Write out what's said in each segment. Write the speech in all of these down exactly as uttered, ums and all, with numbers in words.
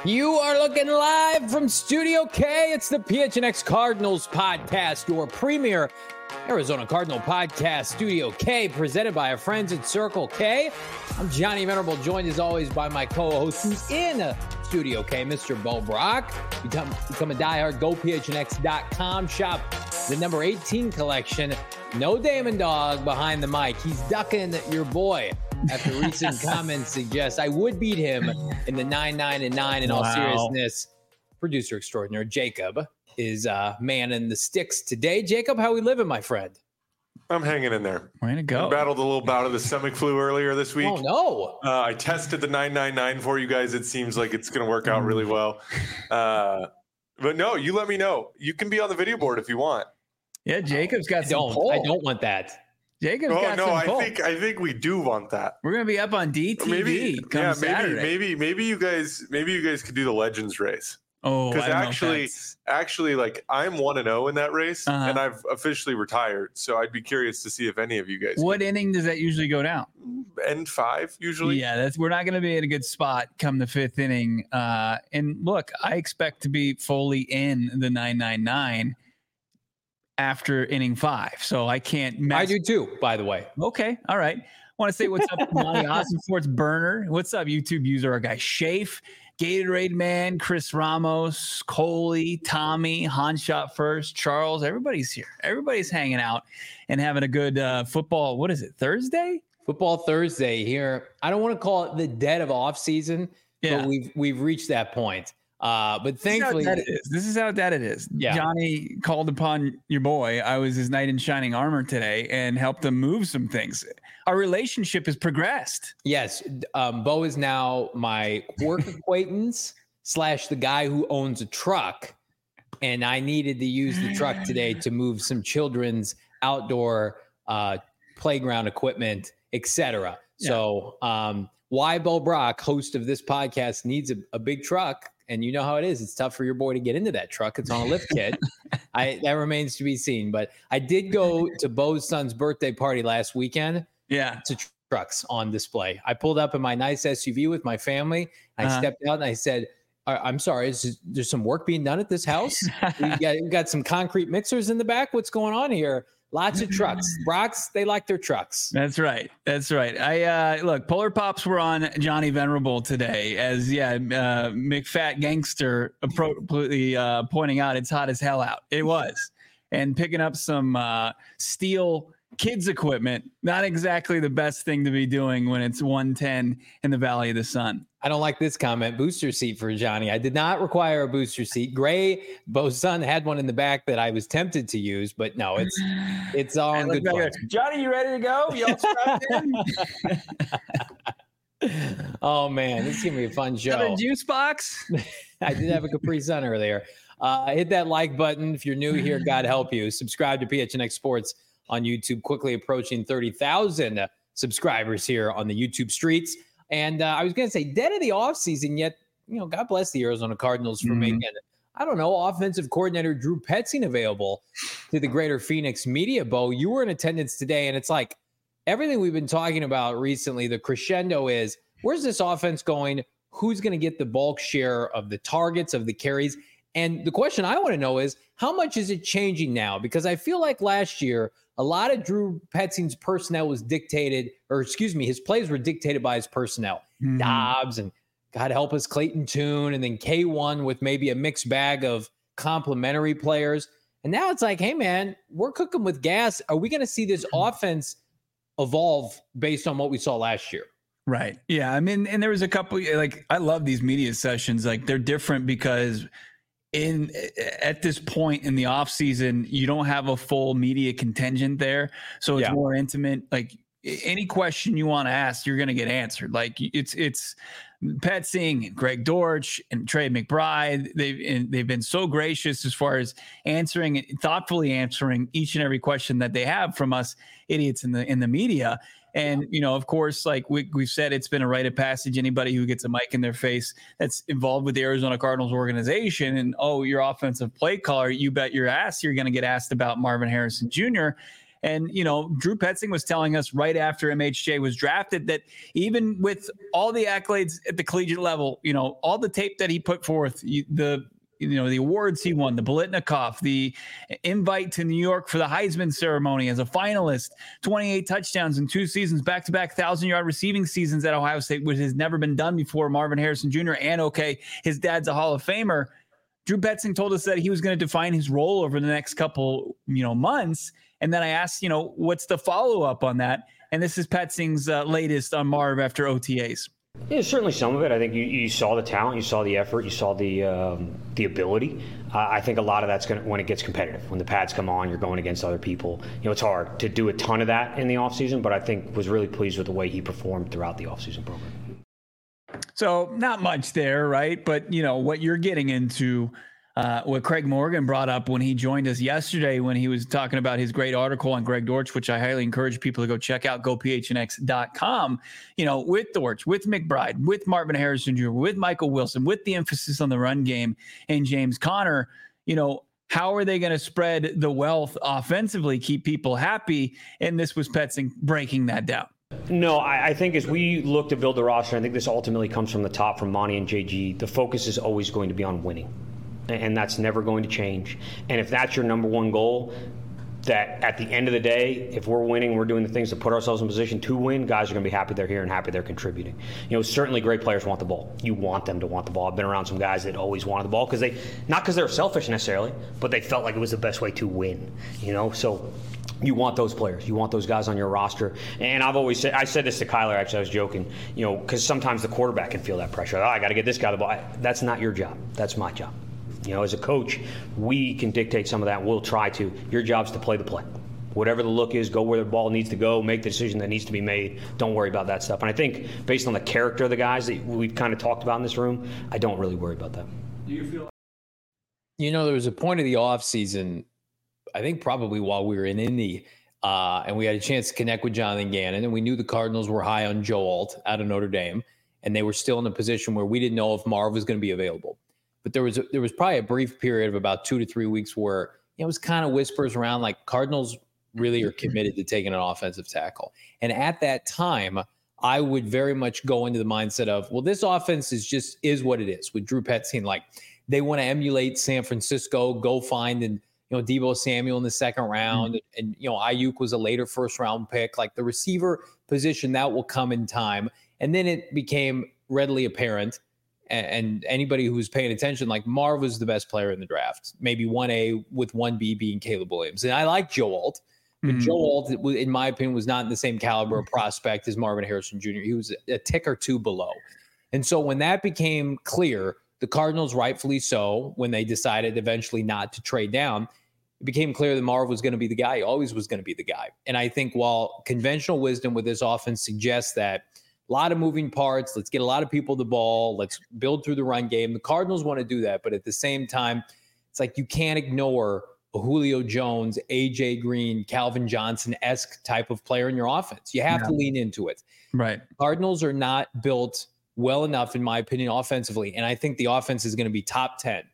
You are looking live from Studio K. It's the P H N X Cardinals podcast, your premier Arizona Cardinal podcast, Studio K, presented by our friends at Circle K. I'm Johnny Venerable, joined as always by my co-host who's in Studio K, Mister Bo Brock. Become, become a diehard, go P H N X dot com, shop the number eighteen collection. No Damon Dog behind the mic. He's ducking your boy after recent comments suggest I would beat him in the nine nine and nine. In all Wow. seriousness, producer extraordinaire Jacob is uh, man in the sticks today. Jacob, how we living, my friend? I'm hanging in there. Way to go. I battled a little bout of the stomach flu earlier this week. Oh, no. Uh, I tested the nine nine nine for you guys. It seems like it's going to work out really well. Uh, but no, you let me know. You can be on the video board if you want. Yeah, Jacob's got I some don't. pull. I don't want that. Jacob's Oh got no, some I pull. think I think we do want that. We're gonna be up on D T V Maybe, come yeah, Saturday. maybe, maybe, maybe you guys, maybe you guys could do the Legends race. Oh, Because I don't know if actually, that's- actually, like I'm one and zero in that race, Uh-huh. and I've officially retired. So I'd be curious to see if any of you guys. what can inning does that usually go down? end five usually. Yeah, that's we're not going to be in a good spot come the fifth inning. Uh, and look, I expect to be fully in the nine nine nine after inning five, so I can't. Mess- I do too, by the way. Okay, all right. Want to say what's up, Monty Austin Sports Burner. What's up, YouTube user? Our guy Shafe, Gatorade Man, Chris Ramos, Coley, Tommy, Han Shot First, Charles. Everybody's here. Everybody's hanging out and having a good uh, football. What is it? Thursday? Football Thursday here. I don't want to call it the dead of off season, Yeah. but we've we've reached that point. Uh, but This is how thankfully, dead it is. This is how dead it is. Yeah. Johnny called upon your boy. I was his knight in shining armor today and helped him move some things. Our relationship has progressed. yes, um, Bo is now my work acquaintance slash the guy who owns a truck, and I needed to use the truck today to move some children's outdoor uh, playground equipment, et cetera. Yeah. So, um, why Bo Brock, host of this podcast, needs a, a big truck, and you know how it is. It's tough for your boy to get into that truck. It's on a lift kit. I that remains to be seen. But I did go to Bo's son's birthday party last weekend. Yeah. To tr- trucks on display. I pulled up in my nice S U V with my family. I Uh-huh. stepped out and I said, "I- I'm sorry, is there's some work being done at this house? we, got, we got some concrete mixers in the back. What's going on here? Lots of trucks. Brocks, they like their trucks." That's right. That's right. I uh look, Polar Pops were on Johnny Venerable today as yeah, uh McFat Gangster appropriately uh pointing out it's hot as hell out. It was. And picking up some uh steel kids equipment, not exactly the best thing to be doing when it's one ten in the Valley of the Sun. I don't like this comment. Booster seat for Johnny. I did not require a booster seat. Gray, Bo's son had one in the back that I was tempted to use, but no, it's it's all in Look good back fun. there. Johnny, you ready to go? You all strapped in? Oh man, this is gonna be a fun show. Another juice box? I did have a Capri Sun earlier. Uh, hit that like button if you're new here. God help you. Subscribe to P H N X Sports on YouTube. Quickly approaching thirty thousand subscribers here on the YouTube streets. And uh, I was going to say, dead of the offseason, yet, you know, God bless the Arizona Cardinals for Mhm. making, I don't know, offensive coordinator Drew Petzing available to the greater Phoenix media. Bo, you were in attendance today, and it's like everything we've been talking about recently, the crescendo is, where's this offense going? Who's going to get the bulk share of the targets, of the carries? And the question I want to know is, how much is it changing now? Because I feel like last year, a lot of Drew Petzing's personnel was dictated, or excuse me, his plays were dictated by his personnel. Mhm. Dobbs and God help us, Clayton Tune, and then K one with maybe a mixed bag of complementary players. And now it's like, hey, man, we're cooking with gas. Are we going to see this offense evolve based on what we saw last year? Right. Yeah. I mean, and there was a couple, like, I love these media sessions. Like, they're different because in at this point in the off season, you don't have a full media contingent there. So it's Yeah. more intimate. Like, any question you want to ask, you're going to get answered. Like, it's, it's Pat Singh and Greg Dortch and Trey McBride. They've, and they've been so gracious as far as answering and thoughtfully answering each and every question that they have from us idiots in the, in the media. And, you know, of course, like we, we've said, it's been a rite of passage. Anybody who gets a mic in their face that's involved with the Arizona Cardinals organization and, oh, your offensive play caller, you bet your ass you're going to get asked about Marvin Harrison Junior And, you know, Drew Petzing was telling us right after M H J was drafted that even with all the accolades at the collegiate level, you know, all the tape that he put forth, the, you know, the awards he won, the Biletnikoff, the invite to New York for the Heisman ceremony as a finalist, twenty-eight touchdowns in two seasons, back-to-back thousand-yard receiving seasons at Ohio State, which has never been done before. Marvin Harrison Junior And, okay, his dad's a Hall of Famer. Drew Petzing told us that he was going to define his role over the next couple, you know, months. And then I asked, you know, what's the follow-up on that? And this is Petzing's uh, latest on Marv after O T As. Yeah, certainly some of it. I think you, you saw the talent, you saw the effort, you saw the um, the ability. Uh, I think a lot of that's going to, when it gets competitive, when the pads come on, you're going against other people. You know, it's hard to do a ton of that in the offseason, but I think was really pleased with the way he performed throughout the offseason program. So not much there, right? But, you know, what you're getting into, Uh, what Craig Morgan brought up when he joined us yesterday when he was talking about his great article on Greg Dortch, which I highly encourage people to go check out, go P H N X dot com, you know, with Dortch, with McBride, with Marvin Harrison Junior, with Michael Wilson, with the emphasis on the run game and James Conner, you know, how are they going to spread the wealth offensively, keep people happy? And this was Petzing breaking that down. No, I, I think as we look to build the roster, I think this ultimately comes from the top, from Monty and J G. The focus is always going to be on winning. And that's never going to change. And if that's your number one goal, that at the end of the day, if we're winning, we're doing the things to put ourselves in position to win, guys are going to be happy they're here and happy they're contributing. You know, certainly great players want the ball. You want them to want the ball. I've been around some guys that always wanted the ball because they, not because they're selfish necessarily, but they felt like it was the best way to win, you know? So you want those players. You want those guys on your roster. And I've always said, I said this to Kyler, actually, I was joking, you know, because sometimes the quarterback can feel that pressure. Oh, I got to get this guy the ball. That's not your job. That's my job. You know, as a coach, we can dictate some of that. We'll try to. Your job's to play the play. Whatever the look is, go where the ball needs to go, make the decision that needs to be made. Don't worry about that stuff. And I think based on the character of the guys that we've kind of talked about in this room, I don't really worry about that. Do you feel? You know, there was a point of the offseason, I think probably while we were in Indy, uh, and we had a chance to connect with Jonathan Gannon, and we knew the Cardinals were high on Joe Alt out of Notre Dame, and they were still in a position where we didn't know if Marv was going to be available. But there was a, there was probably a brief period of about two to three weeks where you know, it was kind of whispers around like Cardinals really are committed to taking an offensive tackle. And at that time, I would very much go into the mindset of, well, this offense is just is what it is with Drew Petzing. Like they want to emulate San Francisco, go find and you know Deebo Samuel in the second round, mm-hmm. and, and you know Ayuk was a later first round pick. Like the receiver position that will come in time, and then it became readily apparent. And anybody who was paying attention, like Marv was the best player in the draft, maybe one A with one B being Caleb Williams. And I like Joe Alt, but mm-hmm. Joe Alt, in my opinion, was not in the same caliber of prospect as Marvin Harrison Junior He was a tick or two below. And so when that became clear, the Cardinals, rightfully so, when they decided eventually not to trade down, it became clear that Marv was going to be the guy. He always was going to be the guy. And I think while conventional wisdom with this offense suggests that a lot of moving parts. Let's get a lot of people the ball. Let's build through the run game. The Cardinals want to do that. But at the same time, it's like you can't ignore a Julio Jones, A J Green, Calvin Johnson-esque type of player in your offense. You have yeah. to lean into it. Right. Cardinals are not built well enough, in my opinion, offensively. And I think the offense is going to be top ten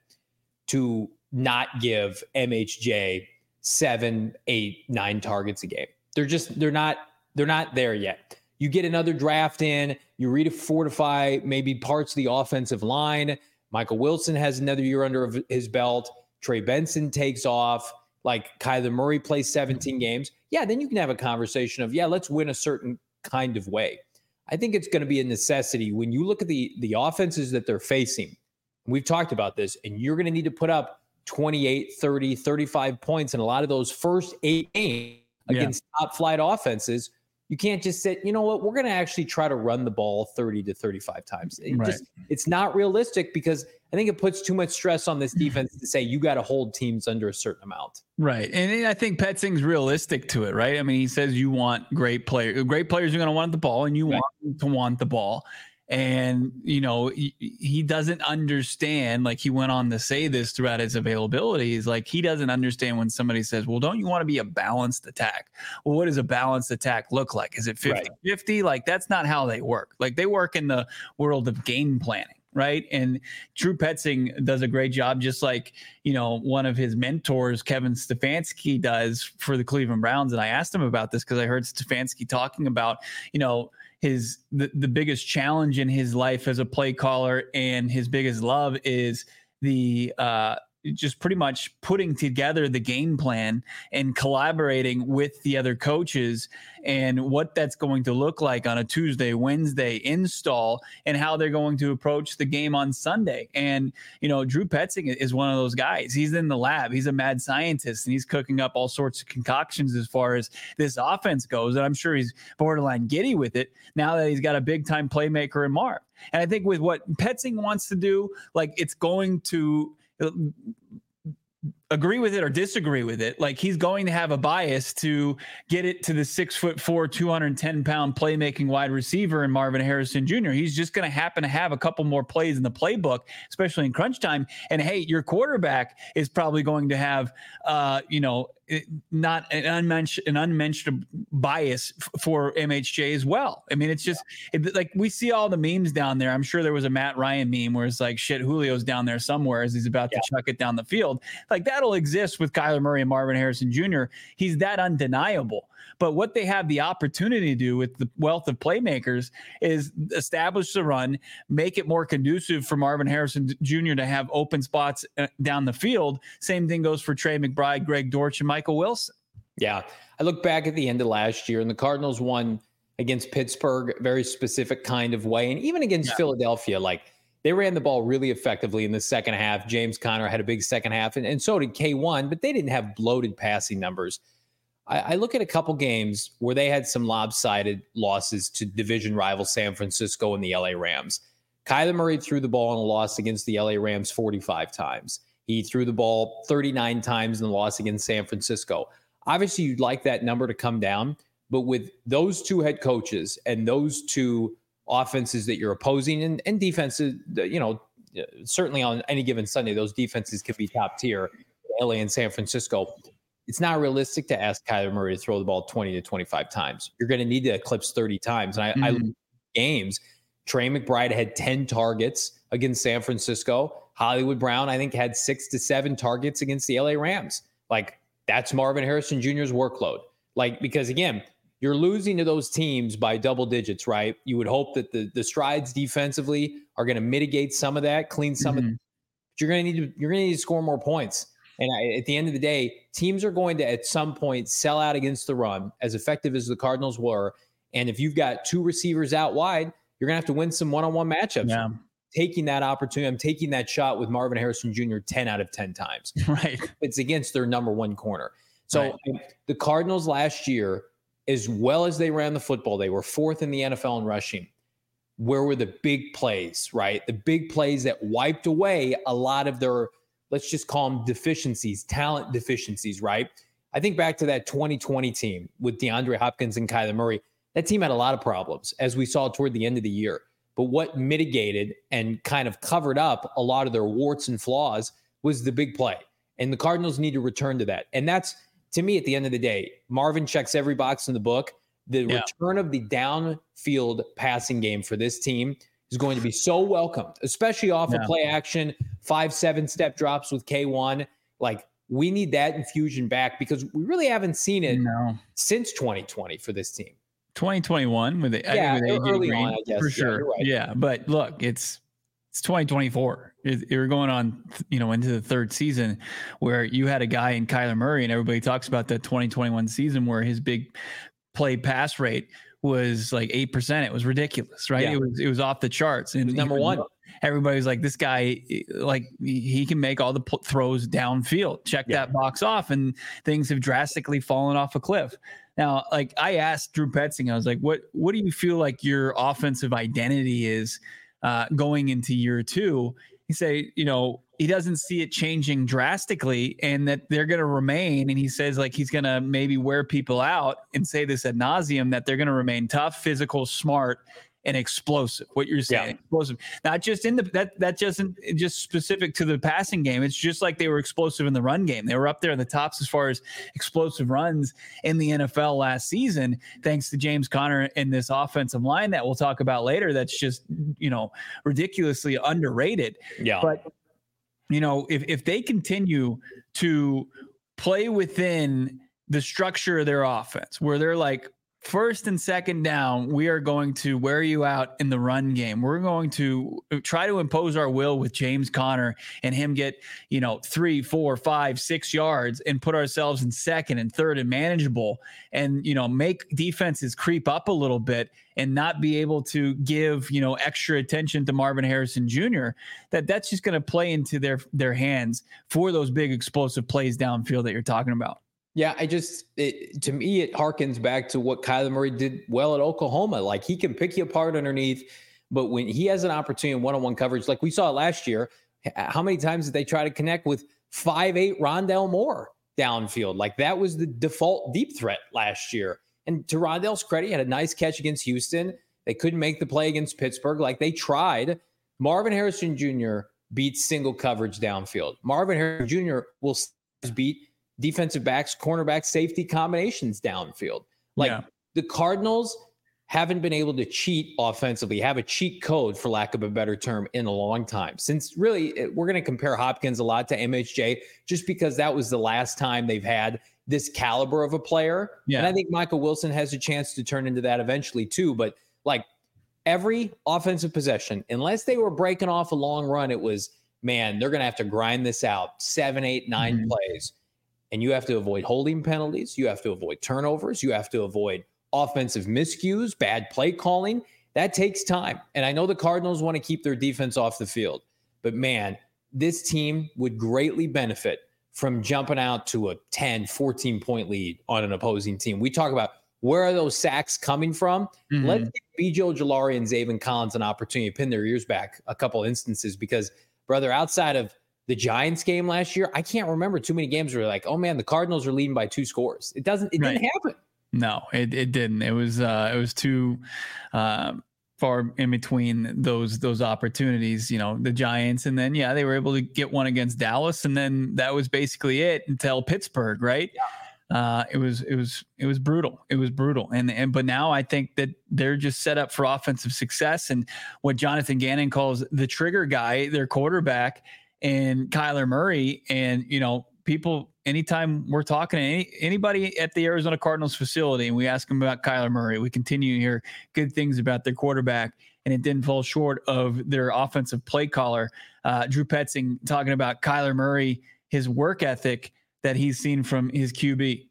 to not give M H J seven, eight, nine targets a game. They're just, they're not, they're not there yet. You get another draft in, you refortify maybe parts of the offensive line. Michael Wilson has another year under his belt. Trey Benson takes off. Like Kyler Murray plays seventeen games. Yeah, then you can have a conversation of, yeah, let's win a certain kind of way. I think it's going to be a necessity when you look at the, the offenses that they're facing. We've talked about this, and you're going to need to put up twenty-eight, thirty, thirty-five points in a lot of those first eight games against yeah. top flight offenses. You can't just say, you know what, we're going to actually try to run the ball thirty to thirty-five times. It right. just, it's not realistic because I think it puts too much stress on this defense to say you got to hold teams under a certain amount. Right. And I think Petzing's realistic to it, right? I mean, he says you want great players. Great players are going to want the ball, and you right. want to want the ball. And, you know, he, he doesn't understand, like he went on to say this throughout his availability. He's like, he doesn't understand when somebody says, well, don't you want to be a balanced attack? Well, what does a balanced attack look like? Is it fifty fifty? Right. Like, that's not how they work. Like, they work in the world of game planning. right? And Drew Petzing does a great job, just like, you know, one of his mentors, Kevin Stefanski, does for the Cleveland Browns. And I asked him about this because I heard Stefanski talking about, you know, his the, the biggest challenge in his life as a play caller and his biggest love is the uh just pretty much putting together the game plan and collaborating with the other coaches and what that's going to look like on a Tuesday, Wednesday install and how they're going to approach the game on Sunday. And, you know, Drew Petzing is one of those guys. He's in the lab. He's a mad scientist and he's cooking up all sorts of concoctions as far as this offense goes. And I'm sure he's borderline giddy with it now that he's got a big time playmaker in Marv. And I think with what Petzing wants to do, like it's going to agree with it or disagree with it. Like he's going to have a bias to get it to the six foot four, two hundred ten pound playmaking wide receiver in Marvin Harrison Junior He's just going to happen to have a couple more plays in the playbook, especially in crunch time. And hey, your quarterback is probably going to have, uh, you know, not an unmentioned, an unmentioned bias f- for M H J as well. I mean, it's just yeah. it, like we see all the memes down there. I'm sure there was a Matt Ryan meme where it's like, shit, Julio's down there somewhere as he's about yeah. to chuck it down the field. Like that'll exist with Kyler Murray and Marvin Harrison Junior He's that undeniable. But what they have the opportunity to do with the wealth of playmakers is establish the run, make it more conducive for Marvin Harrison Junior to have open spots down the field. Same thing goes for Trey McBride, Greg Dortch, and Michael Wilson. Yeah. I look back at the end of last year and the Cardinals won against Pittsburgh, very specific kind of way. And even against yeah. Philadelphia, like they ran the ball really effectively in the second half. James Conner had a big second half and, and so did K one, but they didn't have bloated passing numbers. I look at a couple games where they had some lopsided losses to division rival San Francisco and the L A Rams. Kyler Murray threw the ball in a loss against the L A Rams forty-five times. He threw the ball thirty-nine times in the loss against San Francisco. Obviously, you'd like that number to come down, but with those two head coaches and those two offenses that you're opposing and, and defenses, you know, certainly on any given Sunday, those defenses could be top tier, L A and San Francisco. It's not realistic to ask Kyler Murray to throw the ball twenty to twenty-five times. You're going to need to eclipse thirty times. And I, mm-hmm. I look at games, Trey McBride had ten targets against San Francisco. Hollywood Brown, I think, had six to seven targets against the L A Rams. Like, that's Marvin Harrison Junior's workload. Like, because again, you're losing to those teams by double digits, right? You would hope that the, the strides defensively are going to mitigate some of that, clean some mm-hmm. of it. But you're going to need to, you're going to need to score more points. And I, at the end of the day, teams are going to, at some point, sell out against the run, as effective as the Cardinals were. And if you've got two receivers out wide, you're going to have to win some one-on-one matchups. Yeah. Taking that opportunity, I'm taking that shot with Marvin Harrison Junior ten out of ten times. Right. It's against their number one corner. So right. the Cardinals last year, as well as they ran the football, they were fourth in the N F L in rushing. Where were the big plays, right? The big plays that wiped away a lot of their, let's just call them deficiencies, talent deficiencies, right? I think back to that twenty twenty team with DeAndre Hopkins and Kyler Murray. That team had a lot of problems, as we saw toward the end of the year. But what mitigated and kind of covered up a lot of their warts and flaws was the big play. And the Cardinals need to return to that. And that's, to me, at the end of the day, Marvin checks every box in the book. The yeah. return of the downfield passing game for this team is going to be so welcomed, especially off yeah. of play action, five, seven step drops with K one. Like, we need that infusion back because we really haven't seen it no. since twenty twenty for this team. twenty twenty-one with the yeah, with early Green, on, I guess. for yeah, sure. Right. Yeah, but look, it's it's twenty twenty-four. It, we're going on, you know, into the third season where you had a guy in Kyler Murray, and everybody talks about the twenty twenty-one season where his big play pass rate was like eight percent. It was ridiculous, right? Yeah. It was it was off the charts. And number was, one. Everybody's like, this guy, like, he can make all the pl- throws downfield. Check yeah. that box off, and things have drastically fallen off a cliff. Now, like, I asked Drew Petzing, I was like, what what do you feel like your offensive identity is uh, going into year two? He say, you know, he doesn't see it changing drastically and that they're going to remain. And he says, like, he's going to maybe wear people out and say this ad nauseum, that they're going to remain tough, physical, smart, and explosive. What you're saying, Yeah. explosive, not just in the that that just isn't just specific to the passing game. It's just like they were explosive in the run game. They were up there in the tops as far as explosive runs in the N F L last season, thanks to James Conner and this offensive line that we'll talk about later. That's just, you know, ridiculously underrated. Yeah. But you know, if if they continue to play within the structure of their offense, where they're like, first and second down, we are going to wear you out in the run game. We're going to try to impose our will with James Conner and him get, you know, three, four, five, six yards and put ourselves in second and third and manageable, and, you know, make defenses creep up a little bit and not be able to give, you know, extra attention to Marvin Harrison Junior That that's just going to play into their, their hands for those big explosive plays downfield that you're talking about. Yeah, I just, it, to me, it harkens back to what Kyler Murray did well at Oklahoma. Like, he can pick you apart underneath, but when he has an opportunity in one-on-one coverage, like we saw last year, how many times did they try to connect with five eight Rondale Moore downfield? Like, that was the default deep threat last year. And to Rondale's credit, he had a nice catch against Houston. They couldn't make the play against Pittsburgh. Like, they tried. Marvin Harrison Junior beats single coverage downfield. Marvin Harrison Junior will beat defensive backs, cornerback, safety combinations downfield. Like, yeah. The Cardinals haven't been able to cheat offensively, have a cheat code, for lack of a better term, in a long time. Since really, we're going to compare Hopkins a lot to M H J just because that was the last time they've had this caliber of a player. Yeah. And I think Michael Wilson has a chance to turn into that eventually too. But like, every offensive possession, unless they were breaking off a long run, it was, man, they're going to have to grind this out seven, eight, nine mm-hmm. plays. And you have to avoid holding penalties. You have to avoid turnovers. You have to avoid offensive miscues, bad play calling. That takes time. And I know the Cardinals want to keep their defense off the field. But, man, this team would greatly benefit from jumping out to a ten, fourteen-point lead on an opposing team. We talk about where are those sacks coming from? Mm-hmm. Let's give B J Ojulari and Zaven Collins an opportunity to pin their ears back a couple instances because, brother, outside of the Giants game last year, I can't remember too many games where like, oh man, the Cardinals are leading by two scores. It doesn't, it right. didn't happen. No, it, it didn't. It was, uh, it was too uh, far in between those, those opportunities, you know, the Giants. And then, yeah, they were able to get one against Dallas. And then that was basically it until Pittsburgh. Right. Yeah. Uh, it was, it was, it was brutal. It was brutal. And, and, but now I think that they're just set up for offensive success. And what Jonathan Gannon calls the trigger guy, their quarterback, and Kyler Murray. And, you know, people, anytime we're talking to any, anybody at the Arizona Cardinals facility and we ask them about Kyler Murray, we continue to hear good things about their quarterback, and it didn't fall short of their offensive play caller, uh, Drew Petzing, talking about Kyler Murray, his work ethic that he's seen from his Q B.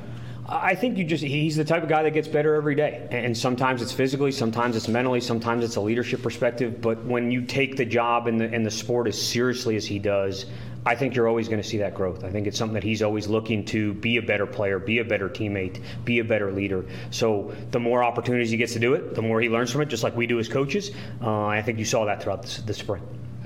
I think you just, he's the type of guy that gets better every day. And sometimes it's physically, sometimes it's mentally, sometimes it's a leadership perspective. But when you take the job and the, and the sport as seriously as he does, I think you're always going to see that growth. I think it's something that he's always looking to be a better player, be a better teammate, be a better leader. So the more opportunities he gets to do it, the more he learns from it, just like we do as coaches. Uh, I think you saw that throughout the, the spring.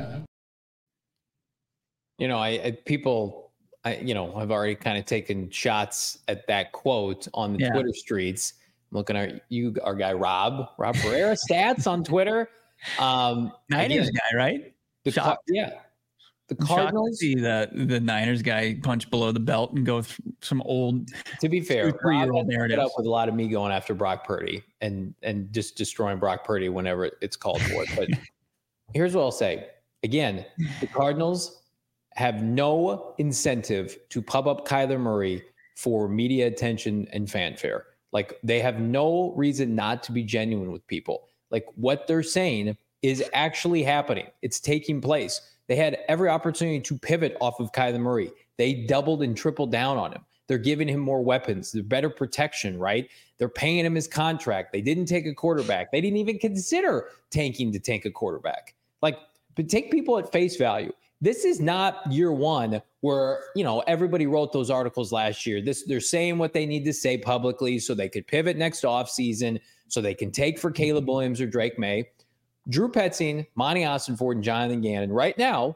You know, I, I people... I, you know, I've already kind of taken shots at that quote on the yeah. Twitter streets. I'm looking at you, our guy, Rob, Rob Pereira, stats on Twitter. Um, Niners again, guy, right? The Car- yeah. The Cardinals. See the, the Niners guy punch below the belt and go through some old. To be fair, Rob put up with a lot of me going after Brock Purdy and, and just destroying Brock Purdy whenever it's called for. But here's what I'll say. Again, the Cardinals have no incentive to pub up Kyler Murray for media attention and fanfare. Like, they have no reason not to be genuine with people. Like, what they're saying is actually happening. It's taking place. They had every opportunity to pivot off of Kyler Murray. They doubled and tripled down on him. They're giving him more weapons. They're better protection, right? They're paying him his contract. They didn't take a quarterback. They didn't even consider tanking to take a quarterback. Like, but take people at face value. This is not year one where, you know, everybody wrote those articles last year. This, they're saying what they need to say publicly so they could pivot next offseason, so they can take for Caleb Williams or Drake May. Drew Petzing, Monty Ossenfort, and Jonathan Gannon right now,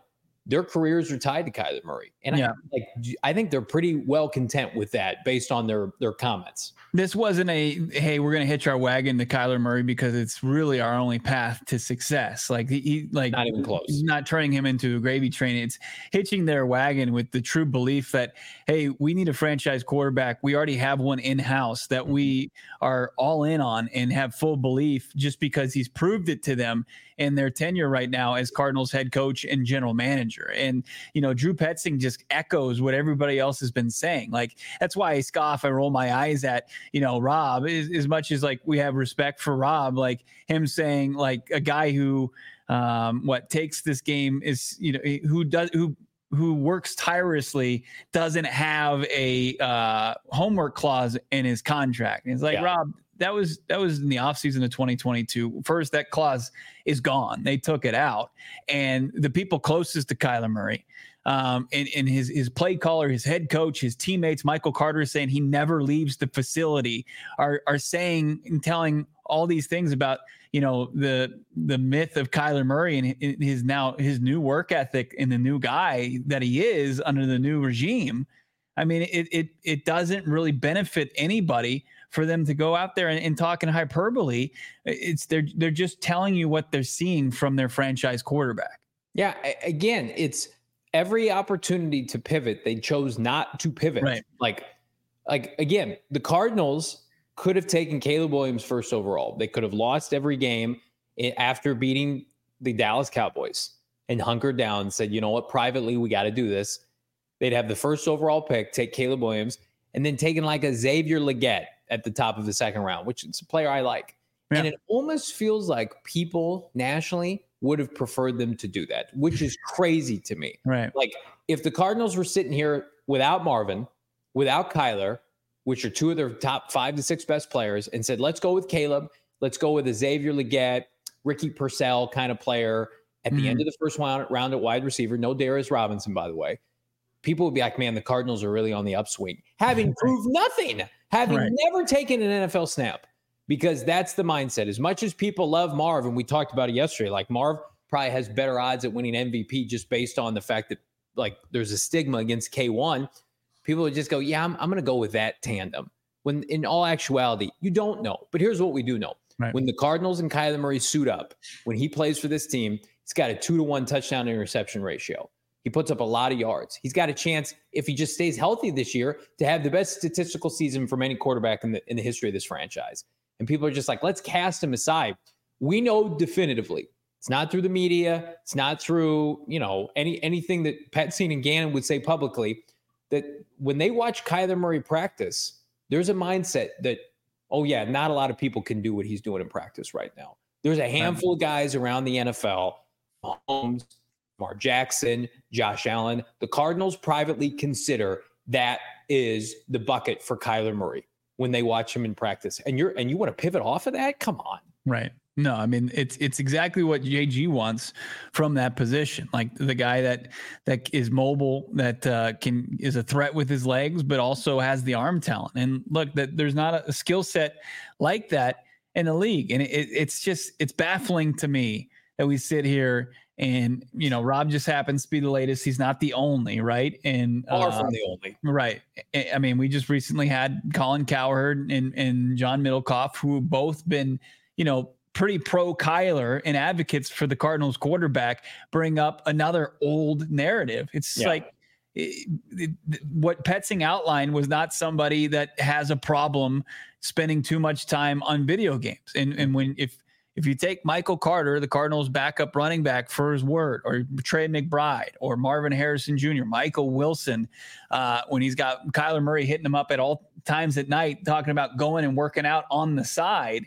their careers are tied to Kyler Murray. And yeah. I, like, I think they're pretty well content with that based on their, their comments. This wasn't a, hey, we're going to hitch our wagon to Kyler Murray because it's really our only path to success. Like he, like not even close, not turning him into a gravy train. It's hitching their wagon with the true belief that, hey, we need a franchise quarterback. We already have one in-house that we are all in on and have full belief just because he's proved it to them in their tenure right now as Cardinals head coach and general manager. And, you know, Drew Petzing just echoes what everybody else has been saying. Like, that's why I scoff, I roll my eyes at, you know, Rob, as, as much as like we have respect for Rob, like him saying like a guy who, um, what takes this game is, you know, who does, who, who works tirelessly doesn't have a uh, homework clause in his contract. And it's like, yeah. Rob, that was that was in the offseason of twenty twenty-two. First, that clause is gone. They took it out. And the people closest to Kyler Murray, um, and, and his, his play caller, his head coach, his teammates, Michael Carter is saying he never leaves the facility, are are saying and telling all these things about, you know, the the myth of Kyler Murray and his now his new work ethic and the new guy that he is under the new regime. I mean, it it it doesn't really benefit anybody for them to go out there and, and talk in hyperbole. It's they're they're just telling you what they're seeing from their franchise quarterback. Yeah, again, it's every opportunity to pivot, they chose not to pivot. Right. Like, like again, the Cardinals could have taken Caleb Williams first overall. They could have lost every game after beating the Dallas Cowboys and hunkered down and said, you know what, privately, we got to do this. They'd have the first overall pick, take Caleb Williams, and then taking like a Xavier Legette at the top of the second round, which is a player I like. Yeah. And it almost feels like people nationally would have preferred them to do that, which is crazy to me. Right. Like if the Cardinals were sitting here without Marvin, without Kyler, which are two of their top five to six best players, and said, let's go with Caleb, let's go with a Xavier Legette, Ricky Purcell kind of player at the mm-hmm. end of the first round, round at wide receiver, no Darius Robinson, by the way, people would be like, man, the Cardinals are really on the upswing, having proved nothing, having right. never taken an N F L snap, because that's the mindset. As much as people love Marv, and we talked about it yesterday, like Marv probably has better odds at winning M V P just based on the fact that like there's a stigma against K one. People would just go, yeah, I'm, I'm going to go with that tandem. When in all actuality, you don't know. But here's what we do know. Right. When the Cardinals and Kyler Murray suit up, when he plays for this team, he's got a two to one touchdown to interception ratio. He puts up a lot of yards. He's got a chance, if he just stays healthy this year, to have the best statistical season from any quarterback in the in the history of this franchise. And people are just like, let's cast him aside. We know definitively, it's not through the media, it's not through, you know, any anything that Petzing and Gannon would say publicly, that when they watch Kyler Murray practice, there's a mindset that, oh yeah, not a lot of people can do what he's doing in practice right now. There's a handful of guys around the N F L, Mahomes, Lamar Jackson, Josh Allen. The Cardinals privately consider that is the bucket for Kyler Murray when they watch him in practice. And you're and you want to pivot off of that? Come on. Right. No, I mean, it's it's exactly what J G wants from that position. Like the guy that that is mobile, that uh, can is a threat with his legs, but also has the arm talent. And look, that there's not a, a skill set like that in the league. And it, it's just it's baffling to me that we sit here and, you know, Rob just happens to be the latest. He's not the only, right? And far uh, from the only, right? I mean, we just recently had Colin Cowherd and and John Middlecoff, who have both been, you know, pretty pro Kyler and advocates for the Cardinals quarterback, bring up another old narrative. It's yeah. like it, it, what Petzing outlined was not somebody that has a problem spending too much time on video games. And and when if if you take Michael Carter, the Cardinals backup running back, for his word, or Trey McBride, or Marvin Harrison Junior, Michael Wilson, uh, when he's got Kyler Murray hitting him up at all times at night, talking about going and working out on the side.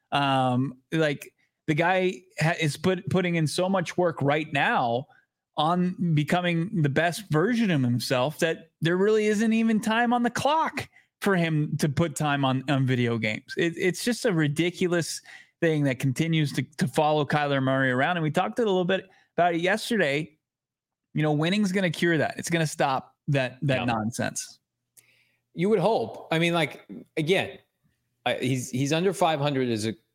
Um, like the guy ha- is put, putting in so much work right now on becoming the best version of himself that there really isn't even time on the clock for him to put time on, on video games. It, it's just a ridiculous thing that continues to, to follow Kyler Murray around. And we talked a little bit about it yesterday. You know, winning's going to cure that. It's going to stop that, that yeah. nonsense. You would hope. I mean, like, again, Uh, he's he's under five hundred as a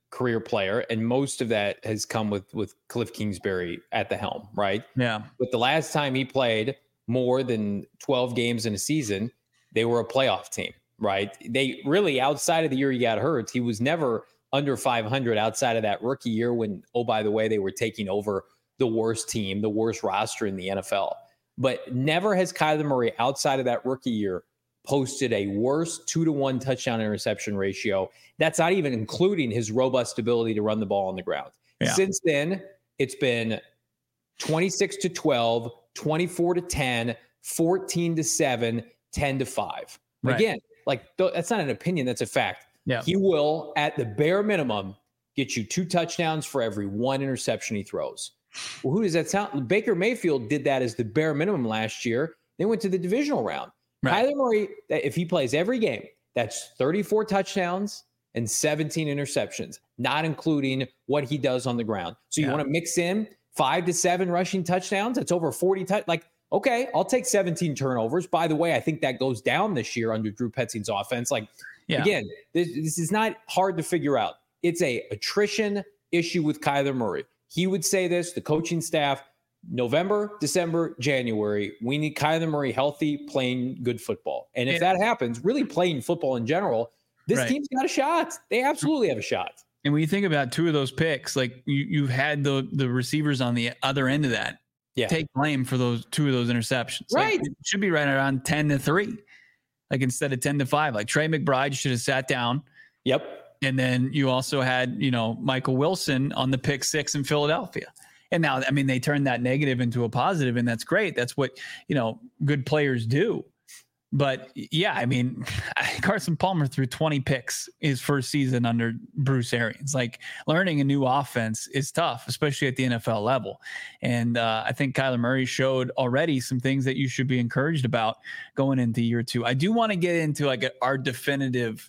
career player, and most of that has come with with Cliff Kingsbury at the helm, right? Yeah. But the last time he played more than twelve games in a season, they were a playoff team, right? They really, outside of the year he got hurt, he was never under five hundred outside of that rookie year when, oh, by the way, they were taking over the worst team, the worst roster in the N F L. But never has Kyler Murray, outside of that rookie year, posted a worse two to one touchdown interception ratio. That's not even including his robust ability to run the ball on the ground. Yeah. Since then, it's been twenty-six to twelve, twenty-four to ten, fourteen to seven, ten to five. Right. Again, like th- that's not an opinion. That's a fact. Yeah. He will, at the bare minimum, get you two touchdowns for every one interception he throws. Well, who does that sound? Baker Mayfield did that as the bare minimum last year. They went to the divisional round. Right. Kyler Murray, if he plays every game, that's thirty-four touchdowns and seventeen interceptions, not including what he does on the ground. So you yeah. want to mix in five to seven rushing touchdowns? That's over forty. T- like, okay, I'll take seventeen turnovers. By the way, I think that goes down this year under Drew Petzing's offense. Like, yeah. again, this, this is not hard to figure out. It's a attrition issue with Kyler Murray. He would say this, the coaching staff, November, December, January, we need Kyler Murray healthy, playing good football. And if that happens, really playing football in general, this right. team's got a shot. They absolutely have a shot. And when you think about two of those picks, like you, you've had the the receivers on the other end of that yeah. take blame for those two of those interceptions. Right. Like, it should be right around ten to three, like instead of ten to five. Like Trey McBride should have sat down. Yep. And then you also had, you know, Michael Wilson on the pick six in Philadelphia. And now, I mean, they turned that negative into a positive, and that's great. That's what, you know, good players do. But yeah, I mean, Carson Palmer threw twenty picks his first season under Bruce Arians. Like, learning a new offense is tough, especially at the N F L level. And uh, I think Kyler Murray showed already some things that you should be encouraged about going into year two. I do want to get into like a, our definitive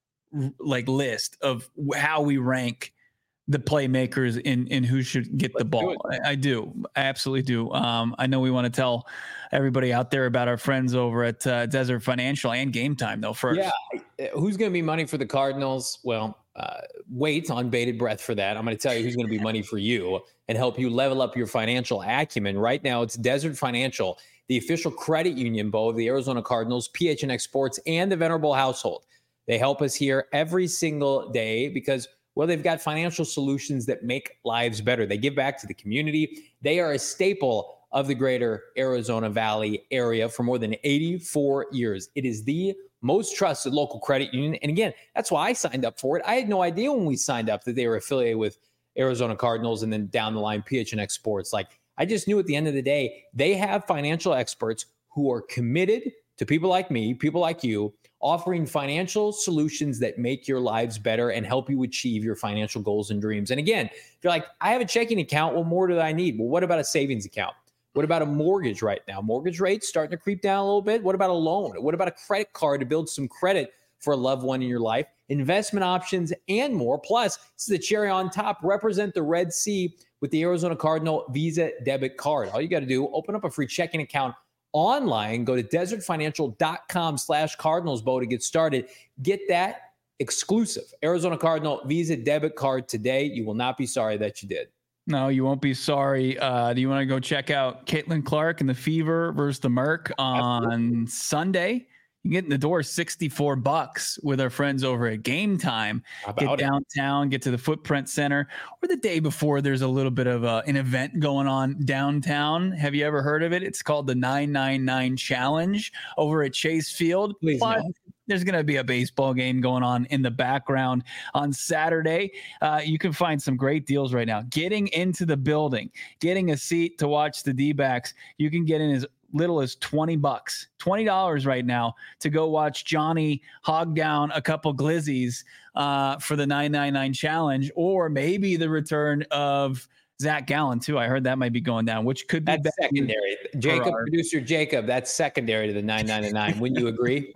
like list of how we rank the playmakers in, in who should get Let's the ball. I, I do. I absolutely do. Um, I know we want to tell everybody out there about our friends over at uh, Desert Financial and Game Time though first. Yeah. Who's going to be money for the Cardinals? Well, uh, wait on bated breath for that. I'm going to tell you who's going to be money for you and help you level up your financial acumen. Right now, it's Desert Financial, the official credit union, Bo, of the Arizona Cardinals, P H N X Sports, and the Venerable household. They help us here every single day because, well, they've got financial solutions that make lives better. They give back to the community. They are a staple of the greater Arizona Valley area for more than eighty-four years. It is the most trusted local credit union. And again, that's why I signed up for it. I had no idea when we signed up that they were affiliated with Arizona Cardinals and then down the line P H N X Sports. Like, I just knew at the end of the day, they have financial experts who are committed to people like me, people like you, offering financial solutions that make your lives better and help you achieve your financial goals and dreams. And again, if you're like, I have a checking account, what more do I need? Well, what about a savings account? What about a mortgage right now? Mortgage rates starting to creep down a little bit. What about a loan? What about a credit card to build some credit for a loved one in your life? Investment options and more. Plus, this is the cherry on top. Represent the Red Sea with the Arizona Cardinal Visa debit card. All you got to do, open up a free checking account online, go to desertfinancial.com slash Cardinals Bow to get started. Get that exclusive Arizona Cardinal Visa debit card today. You will not be sorry that you did. No, you won't be sorry. Uh, do you want to go check out Caitlin Clark and the Fever versus the Merc on Absolutely. Sunday? You get in the door sixty-four bucks with our friends over at Game Time. Get it? downtown, get to the Footprint Center, or the day before there's a little bit of a, an event going on downtown. Have you ever heard of it? It's called the nine nine nine Challenge over at Chase Field. Please Plus, no. There's going to be a baseball game going on in the background on Saturday. Uh, you can find some great deals right now. Getting into the building, getting a seat to watch the D-backs, you can get in as little as twenty bucks, twenty dollars right now to go watch Johnny hog down a couple glizzies uh, for the nine nine nine Challenge, or maybe the return of Zach Gallen too. I heard that might be going down, which could be that's secondary. Jacob, our- producer Jacob, that's secondary to the nine nine nine. Wouldn't you agree?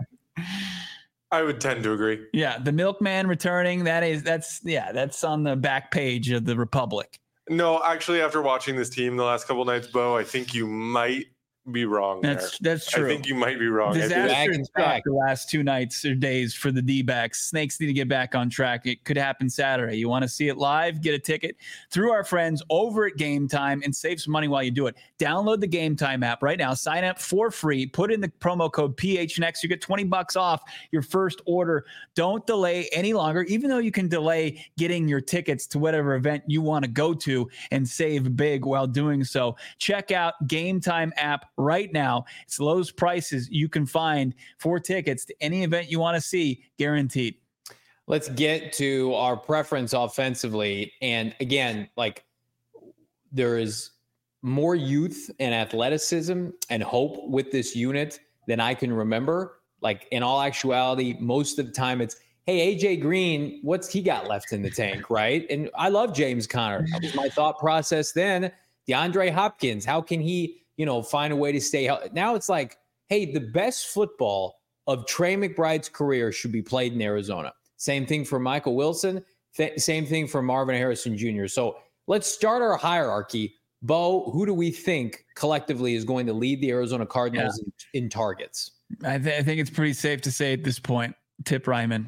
I would tend to agree. Yeah, the Milkman returning. That is, that's yeah, that's on the back page of the Republic. No, actually, after watching this team the last couple of nights, Bo, I think you might be wrong. That's there. that's true. I think you might be wrong. Disaster Back struck the last two nights or days for the D-backs. Snakes need to get back on track. It could happen Saturday. You want to see it live? Get a ticket through our friends over at Game Time and save some money while you do it. Download the Game Time app right now. Sign up for free. Put in the promo code P H N X. You get twenty bucks off your first order. Don't delay any longer, even though you can delay getting your tickets to whatever event you want to go to and save big while doing so. Check out Game Time app right now. It's the lowest prices you can find for tickets to any event you want to see, guaranteed. Let's get to our preference offensively. And again, like there is more youth and athleticism and hope with this unit than I can remember. Like in all actuality, most of the time it's, hey, A J Green, what's he got left in the tank, right? And I love James Conner. That was my thought process then. DeAndre Hopkins, how can he, you know, find a way to stay healthy? Now it's like, hey, the best football of Trey McBride's career should be played in Arizona. Same thing for Michael Wilson. Th- same thing for Marvin Harrison Junior So let's start our hierarchy. Bo, who do we think collectively is going to lead the Arizona Cardinals yeah. in, in targets? I, th- I think it's pretty safe to say at this point, Tip Ryman.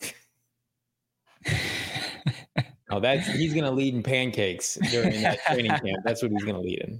Oh, that's he's going to lead in pancakes during that training camp. That's what he's going to lead in.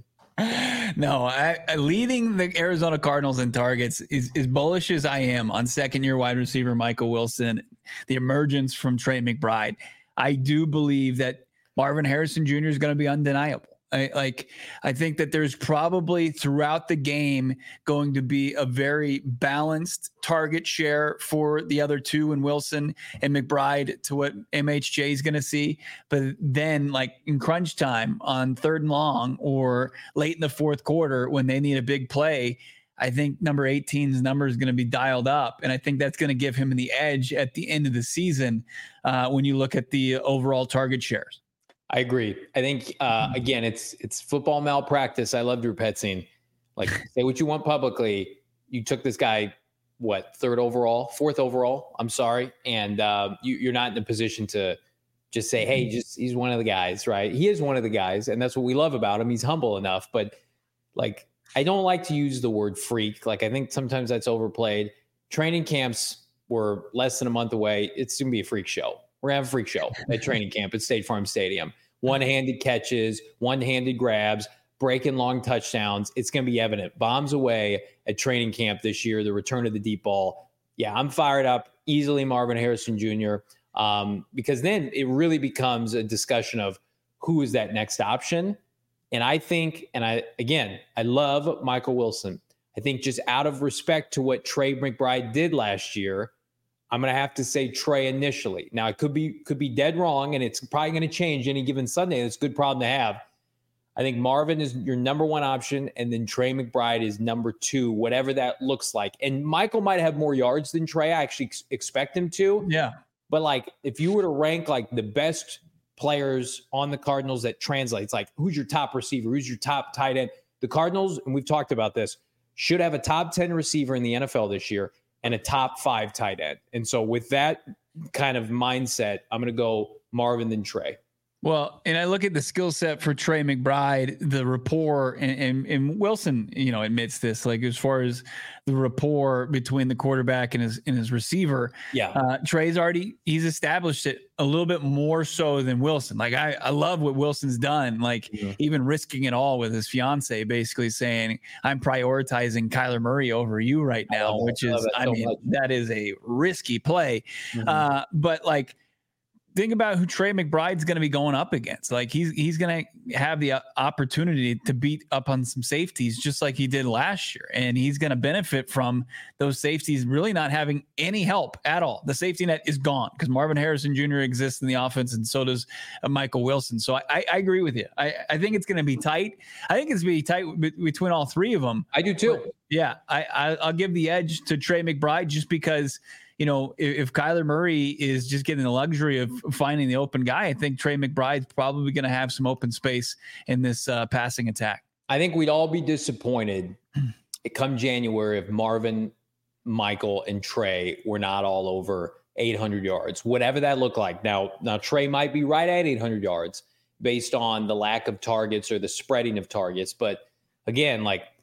No, I, I, leading the Arizona Cardinals in targets is as bullish as I am on second-year wide receiver Michael Wilson, the emergence from Trey McBride. I do believe that Marvin Harrison Junior is going to be undeniable. I, like, I think that there's probably throughout the game going to be a very balanced target share for the other two and Wilson and McBride to what M H J is going to see. But then like in crunch time on third and long or late in the fourth quarter when they need a big play, I think number eighteen's number is going to be dialed up. And I think that's going to give him the edge at the end of the season uh, when you look at the overall target shares. I agree. I think, uh, again, it's it's football malpractice. I love Drew Petzing. Like, say what you want publicly. You took this guy, what, third overall, fourth overall? I'm sorry. And uh, you, you're not in a position to just say, hey, just he's one of the guys, right? He is one of the guys, and that's what we love about him. He's humble enough. But, like, I don't like to use the word freak. Like, I think sometimes that's overplayed. Training camps were less than a month away. It's going to be a freak show. We're going to have a freak show at training camp at State Farm Stadium. One-handed catches, one-handed grabs, breaking long touchdowns. It's going to be evident. Bombs away at training camp this year, the return of the deep ball. Yeah, I'm fired up. Easily Marvin Harrison Junior Um, because then it really becomes a discussion of who is that next option. And I think, and I again, I love Michael Wilson. I think just out of respect to what Trey McBride did last year, I'm going to have to say Trey initially. Now, it could be could be dead wrong, and it's probably going to change any given Sunday. That's a good problem to have. I think Marvin is your number one option, and then Trey McBride is number two, whatever that looks like. And Michael might have more yards than Trey. I actually ex- expect him to. Yeah. But, like, if you were to rank, like, the best players on the Cardinals that translates, like, who's your top receiver? Who's your top tight end? The Cardinals, and we've talked about this, should have a top ten receiver in the N F L this year and a top five tight end. And so with that kind of mindset, I'm going to go Marvin then Trey. Well, and I look at the skill set for Trey McBride, the rapport, and, and, and Wilson, you know, admits this, like as far as the rapport between the quarterback and his and his receiver. Yeah. Uh, Trey's already, he's established it a little bit more so than Wilson. Like I, I love what Wilson's done, like mm-hmm. even risking it all with his fiance, basically saying, I'm prioritizing Kyler Murray over you right now, which is, I, I mean, much. that is a risky play. Mm-hmm. Uh, but like, think about who Trey McBride's going to be going up against. Like he's he's going to have the opportunity to beat up on some safeties just like he did last year. And he's going to benefit from those safeties really not having any help at all. The safety net is gone because Marvin Harrison Junior exists in the offense and so does uh, Michael Wilson. So I, I, I agree with you. I, I think it's going to be tight. I think it's going to be tight b- between all three of them. I do too. But yeah, I, I, I'll give the edge to Trey McBride just because – you know, if, if Kyler Murray is just getting the luxury of finding the open guy, I think Trey McBride's probably going to have some open space in this uh, passing attack. I think we'd all be disappointed come January if Marvin, Michael, and Trey were not all over eight hundred yards, whatever that looked like. Now, now Trey might be right at eight hundred yards based on the lack of targets or the spreading of targets. But again, like,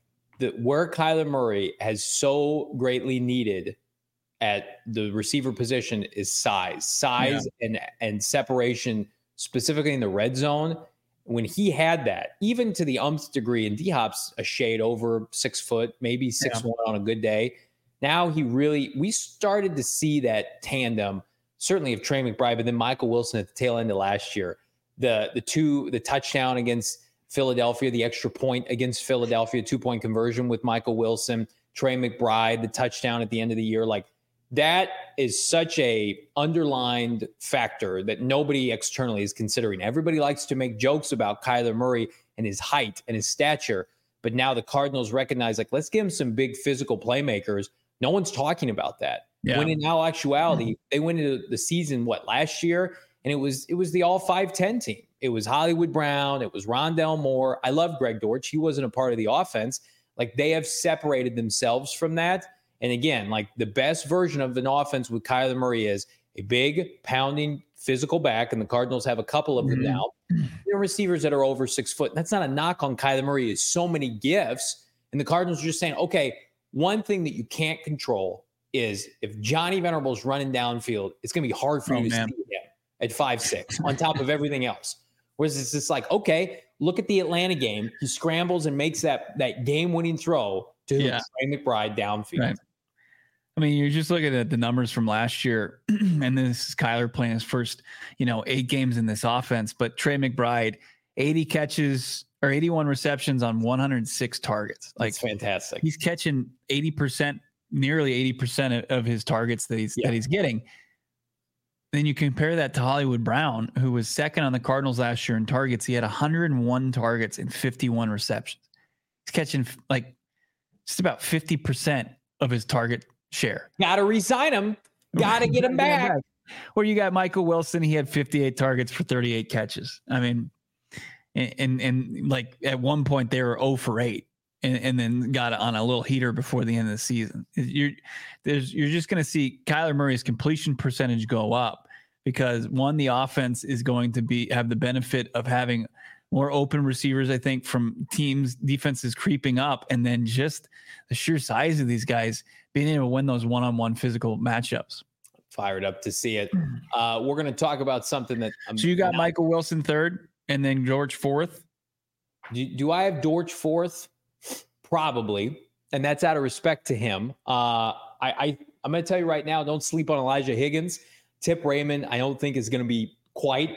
the where Kyler Murray has so greatly needed at the receiver position is size, size yeah. and and separation, specifically in the red zone. When he had that, even to the umpth degree, and D-Hop's a shade over six foot, maybe six yeah. one on a good day. Now he really, we started to see that tandem, certainly of Trey McBride, but then Michael Wilson at the tail end of last year. The the two, the touchdown against Philadelphia, the extra point against Philadelphia, two-point conversion with Michael Wilson, Trey McBride, the touchdown at the end of the year. Like, that is such a underlined factor that nobody externally is considering. Everybody likes to make jokes about Kyler Murray and his height and his stature, but now the Cardinals recognize, like, let's give him some big physical playmakers. No one's talking about that. Yeah. When in all actuality, they went into the season, what, last year? And it was it was the all five ten team. It was Hollywood Brown. It was Rondale Moore. I love Greg Dortch. He wasn't a part of the offense. Like, they have separated themselves from that. And again, like, the best version of an offense with Kyler Murray is a big, pounding, physical back, and the Cardinals have a couple of them mm-hmm. now. There are receivers that are over six foot. That's not a knock on Kyler Murray. It's so many gifts. And the Cardinals are just saying, okay, one thing that you can't control is if Johnny Venerable's running downfield, it's going to be hard for oh, you to man. see him at five six on top of everything else. Whereas it's just like, okay, look at the Atlanta game. He scrambles and makes that that game-winning throw to yeah. Trey McBride downfield. Right. I mean, you're just looking at the numbers from last year, and this is Kyler playing his first, you know, eight games in this offense. But Trey McBride, eighty catches or eighty-one receptions on one hundred six targets. Like, that's fantastic. He's catching eighty percent, nearly eighty percent of his targets that he's yeah. that he's getting. Then you compare that to Hollywood Brown, who was second on the Cardinals last year in targets. He had one hundred one targets and fifty-one receptions. He's catching like just about fifty percent of his target share. Got to re-sign him. Got to get him back. Or you got Michael Wilson. He had fifty-eight targets for thirty-eight catches. I mean, and, and, and like at one point they were zero for eight and, and then got on a little heater before the end of the season. You're, there's, you're just going to see Kyler Murray's completion percentage go up because, one, the offense is going to be have the benefit of having more open receivers, I think, from teams, defenses creeping up, and then just the sheer size of these guys being able to win those one-on-one physical matchups. Fired up to see it. Uh, we're going to talk about something that I'm so you got not, Michael Wilson third and then Dortch fourth. Do, do I have Dortch fourth? Probably. And that's out of respect to him. Uh, I, I, I'm going to tell you right now, don't sleep on Elijah Higgins. Tip Raymond, I don't think is going to be quite,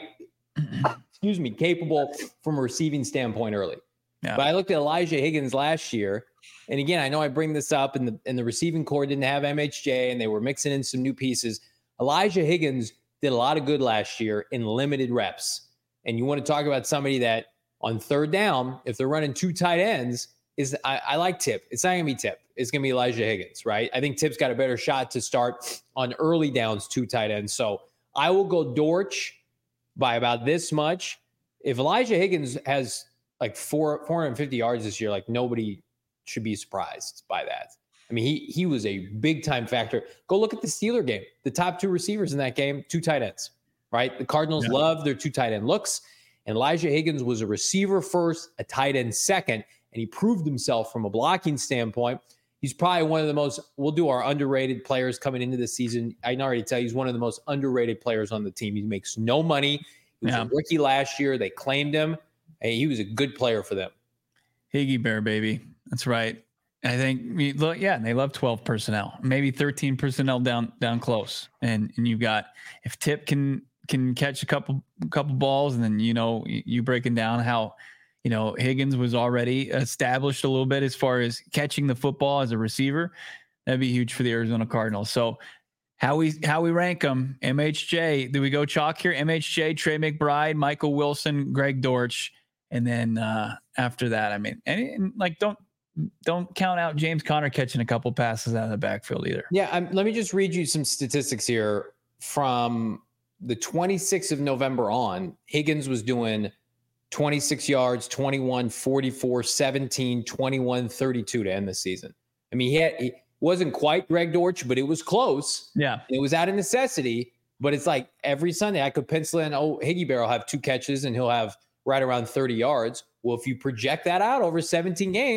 excuse me, capable from a receiving standpoint early. Yeah. But I looked at Elijah Higgins last year. And again, I know I bring this up, and the and the receiving core didn't have M H J, and they were mixing in some new pieces. Elijah Higgins did a lot of good last year in limited reps. And you want to talk about somebody that on third down, if they're running two tight ends, is I, I like Tip. It's not going to be Tip. It's going to be Elijah Higgins, right? I think Tip's got a better shot to start on early downs, two tight ends. So I will go Dortch by about this much. If Elijah Higgins has like four, four hundred fifty yards this year, like nobody should be surprised by that. I mean, he he was a big-time factor. Go look at the Steeler game. The top two receivers in that game, two tight ends, right? The Cardinals yeah. love their two tight end looks, and Elijah Higgins was a receiver first, a tight end second, and he proved himself from a blocking standpoint. He's probably one of the most, we'll do our underrated players coming into the season. I can already tell you he's one of the most underrated players on the team. He makes no money. He was yeah. a rookie last year. They claimed him. Hey, he was a good player for them. Higgy Bear, baby. That's right. I think, look, yeah, they love twelve personnel, maybe thirteen personnel down down close. And and you've got, if Tip can can catch a couple couple balls, and then, you know, you breaking down how, you know, Higgins was already established a little bit as far as catching the football as a receiver, that'd be huge for the Arizona Cardinals. So how we how we rank them, M H J, do we go chalk here? M H J, Trey McBride, Michael Wilson, Greg Dortch. And then uh, after that, I mean, and, and like, don't, Don't count out James Conner catching a couple passes out of the backfield either. Yeah, um, let me just read you some statistics here. From the twenty-sixth of November on, Higgins was doing twenty-six yards, twenty-one, forty-four, seventeen, twenty-one, thirty-two to end the season. I mean, he, had, he wasn't quite Greg Dortch, but it was close. Yeah. It was out of necessity, but it's like every Sunday I could pencil in, oh, Higgy Bear will have two catches and he'll have right around thirty yards. Well, if you project that out over seventeen games,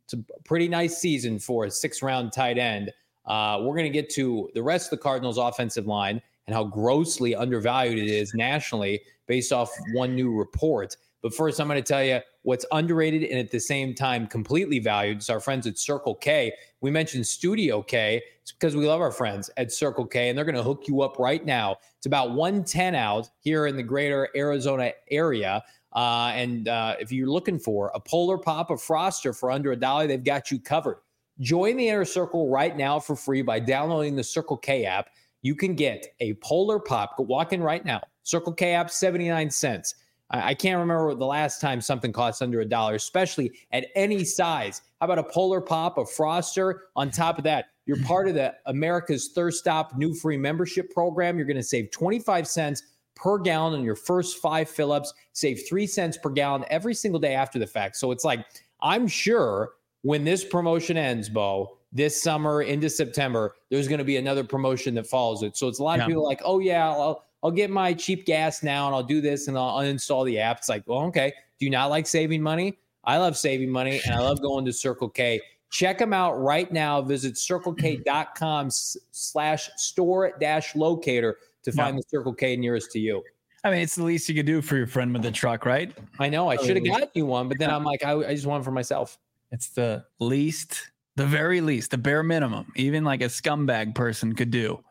It's a pretty nice season for a six-round tight end. Uh, we're going to get to the rest of the Cardinals' offensive line and how grossly undervalued it is nationally based off one new report. But first, I'm going to tell you what's underrated and at the same time completely valued. It's our friends at Circle K. We mentioned Studio K. It's because we love our friends at Circle K, and they're going to hook you up right now. It's about one ten out here in the greater Arizona area. Uh, and uh, if you're looking for a Polar Pop of Froster for under a dollar, they've got you covered. Join the Inner Circle right now for free by downloading the Circle K app. You can get a Polar Pop. Go walk in right now. Circle K app, seventy-nine cents. I, I can't remember the last time something costs under a dollar, especially at any size. How about a Polar Pop of Froster? On top of that, you're part of the America's Thirst Stop new free membership program. You're going to save twenty-five cents per gallon on your first five fill-ups. Save three cents per gallon every single day after the fact. So it's like, I'm sure when this promotion ends, Bo, this summer into September, there's going to be another promotion that follows it. So it's a lot yeah. of people like, oh yeah, I'll, I'll get my cheap gas now and I'll do this and I'll uninstall the app. It's like, well, okay. Do you not like saving money? I love saving money and I love going to Circle K. Check them out right now. Visit circlek.com slash store dash locator to find yeah. the Circle K nearest to you. I mean, it's the least you could do for your friend with the truck, right? I know. I should have gotten you one, but then I'm like, I, I just want it for myself. It's the least, the very least, the bare minimum, even like a scumbag person could do.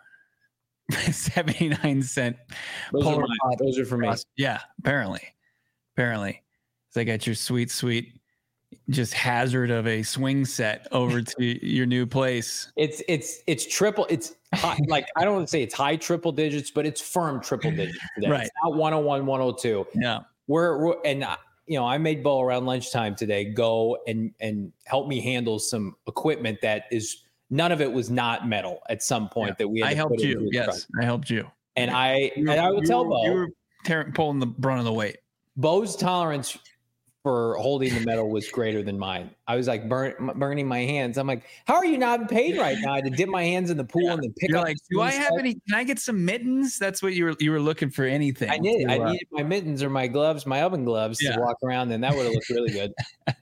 seventy-nine cent. Those are, mine. Those are for me. Yeah, apparently. Apparently. So I got your sweet, sweet, just hazard of a swing set over to your new place. It's, it's, it's triple. It's high, like, I don't want to say it's high triple digits, but it's firm triple digits today. Right. It's not one oh one, one oh two. Yeah. We're, we're and uh, you know, I made Bo around lunchtime today go and and help me handle some equipment that is none of it was not metal at some point yeah. that we had I to helped put you. Yes, truck. I helped you. And I you and I would tell were, Bo you were tearing, pulling the brunt of the weight. Bo's tolerance for holding the metal was greater than mine. I was like burn, burning my hands. I'm like, how are you not in pain right now? I had to dip my hands in the pool yeah. and then pick You're up. Like, do I have stuff. any? Can I get some mittens? That's what you were. You were looking for anything. I did. To, I uh, needed my mittens or my gloves, my oven gloves yeah. to walk around, and that would have looked really good.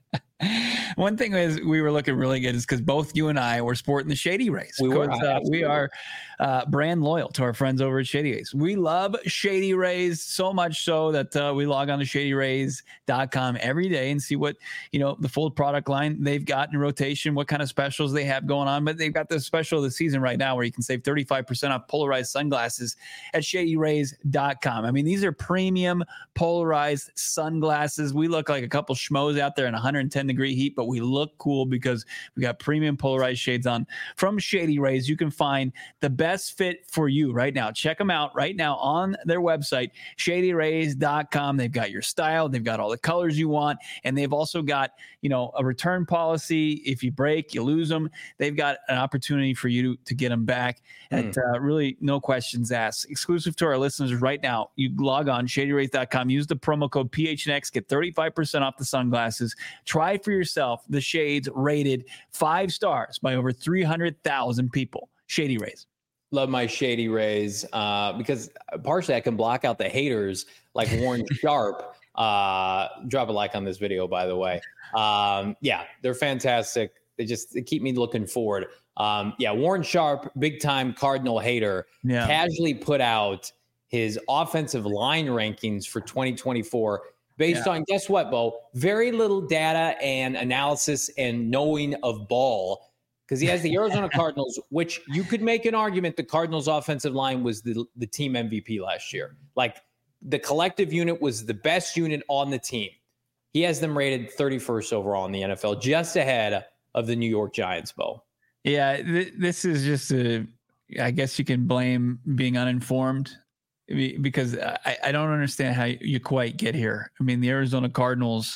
One thing is we were looking really good is because both you and I were sporting the Shady Rays. We were. Uh, we are uh, brand loyal to our friends over at Shady Rays. We love Shady Rays so much so that uh, we log on to shady rays dot com every day and see what, you know, the full product line they've got in rotation, what kind of specials they have going on. But they've got the special of the season right now where you can save thirty-five percent off polarized sunglasses at shady rays dot com. I mean, these are premium polarized sunglasses. We look like a couple schmoes out there in one hundred ten degree heat, but we look cool because we got premium polarized shades on from Shady Rays. You can find the best fit for you right now. Check them out right now on their website, shady rays dot com. They've got your style. They've got all the colors you want. And they've also got, you know, a return policy. If you break, you lose them. They've got an opportunity for you to, to get them back at mm. uh, really no questions asked. Exclusive to our listeners right now. You log on shady rays dot com. Use the promo code P H N X. Get thirty-five percent off the sunglasses. Try for yourself the shades rated five stars by over three hundred thousand people. Shady Rays. Love my Shady Rays uh, because partially I can block out the haters like Warren Sharp. Uh, drop a like on this video, by the way. Um, yeah, they're fantastic. They just they keep me looking forward. Um, yeah, Warren Sharp, big time Cardinal hater, yeah. casually put out his offensive line rankings for twenty twenty-four based yeah. on, guess what, Bo? Very little data and analysis and knowing of ball. Because he has the Arizona Cardinals, which you could make an argument the Cardinals' offensive line was the, the team M V P last year. Like, the collective unit was the best unit on the team. He has them rated thirty-first overall in the N F L, just ahead of the New York Giants, Bo. Yeah, th- this is just a, I guess you can blame being uninformed because I, I don't understand how you quite get here. I mean, the Arizona Cardinals,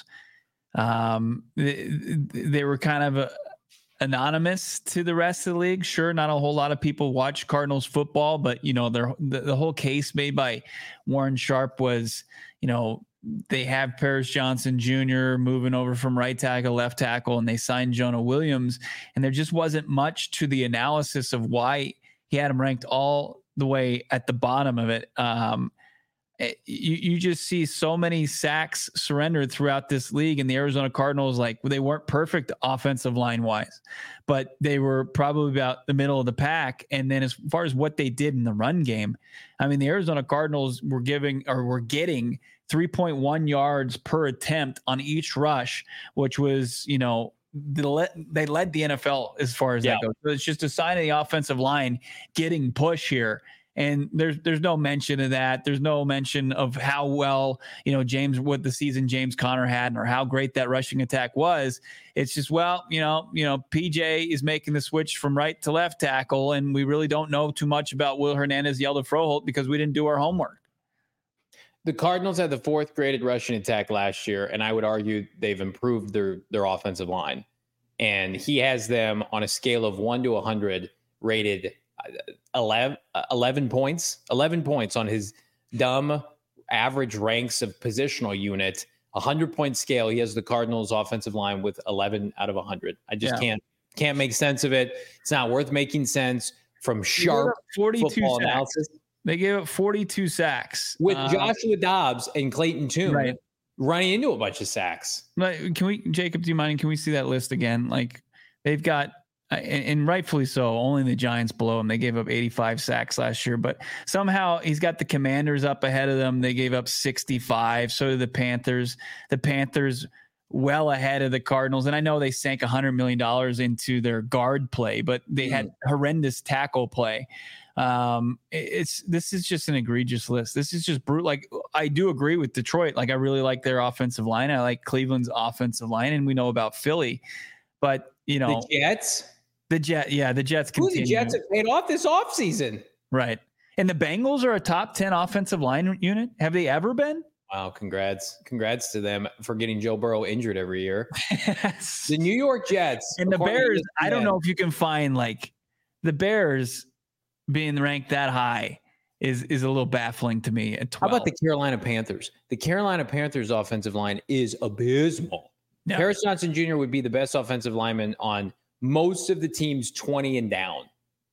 um, they, they were kind of a, anonymous to the rest of the league. Sure, not a whole lot of people watch Cardinals football, but you know, the, the whole case made by Warren Sharp was, you know, they have Paris Johnson Junior moving over from right tackle, left tackle, and they signed Jonah Williams. And there just wasn't much to the analysis of why he had him ranked all the way at the bottom of it. Um, You you just see so many sacks surrendered throughout this league, and the Arizona Cardinals, like, they weren't perfect offensive line wise, but they were probably about the middle of the pack. And then as far as what they did in the run game, I mean, the Arizona Cardinals were giving or were getting three point one yards per attempt on each rush, which was, you know, the, they led the N F L as far as yeah. that goes. So it's just a sign of the offensive line getting push here. And there's there's no mention of that. There's no mention of how well, you know, James, what the season James Conner had, or how great that rushing attack was. It's just, well, you know, you know, P J is making the switch from right to left tackle, and we really don't know too much about Will Hernandez, Hjalte Froholt, because we didn't do our homework. The Cardinals had the fourth graded rushing attack last year, and I would argue they've improved their their offensive line. And he has them on a scale of one to one hundred rated eleven, eleven points, eleven points on his dumb average ranks of positional unit, a hundred point scale. He has the Cardinals offensive line with eleven out of a hundred. I just yeah. can't, can't make sense of it. It's not worth making sense from sharp football sacks. analysis. They gave up forty-two sacks with uh, Joshua Dobbs and Clayton Tune right. running into a bunch of sacks. Can we, Jacob, do you mind? Can we see that list again? Like, they've got, and rightfully so, only the Giants below him. They gave up eighty-five sacks last year, but somehow he's got the Commanders up ahead of them. They gave up sixty-five. So did the Panthers. The Panthers well ahead of the Cardinals. And I know they sank one hundred million dollars into their guard play, but they mm. had horrendous tackle play. Um, it's, this is just an egregious list. This is just brutal. Like, I do agree with Detroit. Like, I really like their offensive line. I like Cleveland's offensive line, and we know about Philly, but you know, the Jets, the Jet, yeah, the Jets. Who the Jets have paid off this offseason. Right. And the Bengals are a top ten offensive line unit. Have they ever been? Wow. Congrats. Congrats to them for getting Joe Burrow injured every year. Yes. The New York Jets and the Bears. I don't know if you can find, like, the Bears being ranked that high is, is a little baffling to me at twelve. How about the Carolina Panthers? The Carolina Panthers offensive line is abysmal. Yeah. Paris Johnson Junior would be the best offensive lineman on most of the teams twenty and down.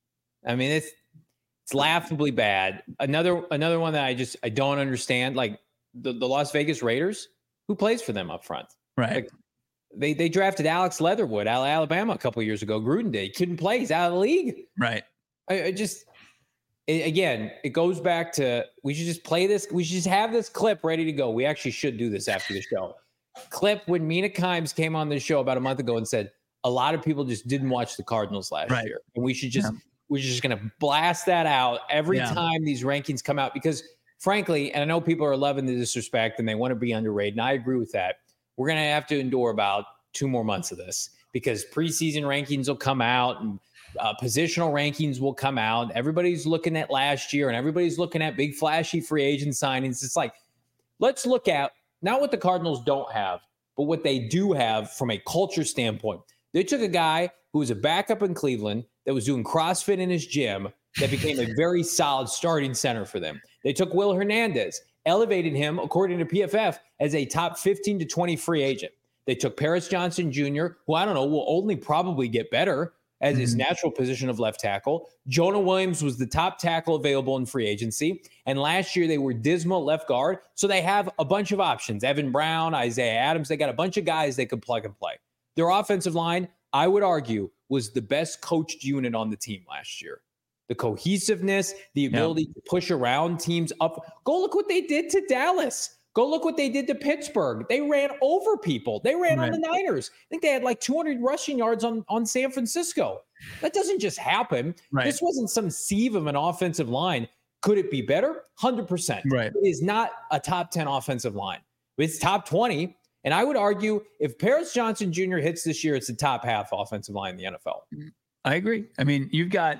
I mean, it's it's laughably bad. Another another one that I just I don't understand, like the, the Las Vegas Raiders, who plays for them up front? Right. Like, they they drafted Alex Leatherwood out of Alabama a couple of years ago. Gruden did. He couldn't play. He's out of the league. Right. I, I just it, again, it goes back to, we should just play this. We should just have this clip ready to go. We actually should do this after the show. Clip when Mina Kimes came on the show about a month ago and said a lot of people just didn't watch the Cardinals last right. year, and we should just yeah. we're just going to blast that out every yeah. time these rankings come out, because frankly, and I know people are loving the disrespect and they want to be underrated, and I agree with that. We're going to have to endure about two more months of this, because preseason rankings will come out and uh, positional rankings will come out. Everybody's looking at last year and everybody's looking at big flashy free agent signings. It's like, let's look at not what the Cardinals don't have, but what they do have from a culture standpoint. They took a guy who was a backup in Cleveland that was doing CrossFit in his gym that became a very solid starting center for them. They took Will Hernandez, elevated him, according to P F F, as a top fifteen to twenty free agent. They took Paris Johnson Junior, who I don't know, will only probably get better as his natural position of left tackle. Jonah Williams was the top tackle available in free agency. And last year they were dismal at left guard. So they have a bunch of options. Evan Brown, Isaiah Adams, they got a bunch of guys they could plug and play. Their offensive line, I would argue, was the best coached unit on the team last year. The cohesiveness, the ability yeah. to push around teams up. Go look what they did to Dallas. Go look what they did to Pittsburgh. They ran over people. They ran right. on the Niners. I think they had like two hundred rushing yards on, on San Francisco. That doesn't just happen. Right. This wasn't some sieve of an offensive line. Could it be better? one hundred percent. Right. It is not a top ten offensive line. It's top twenty. And I would argue if Paris Johnson Junior hits this year, it's the top half offensive line in the N F L. I agree. I mean, you've got,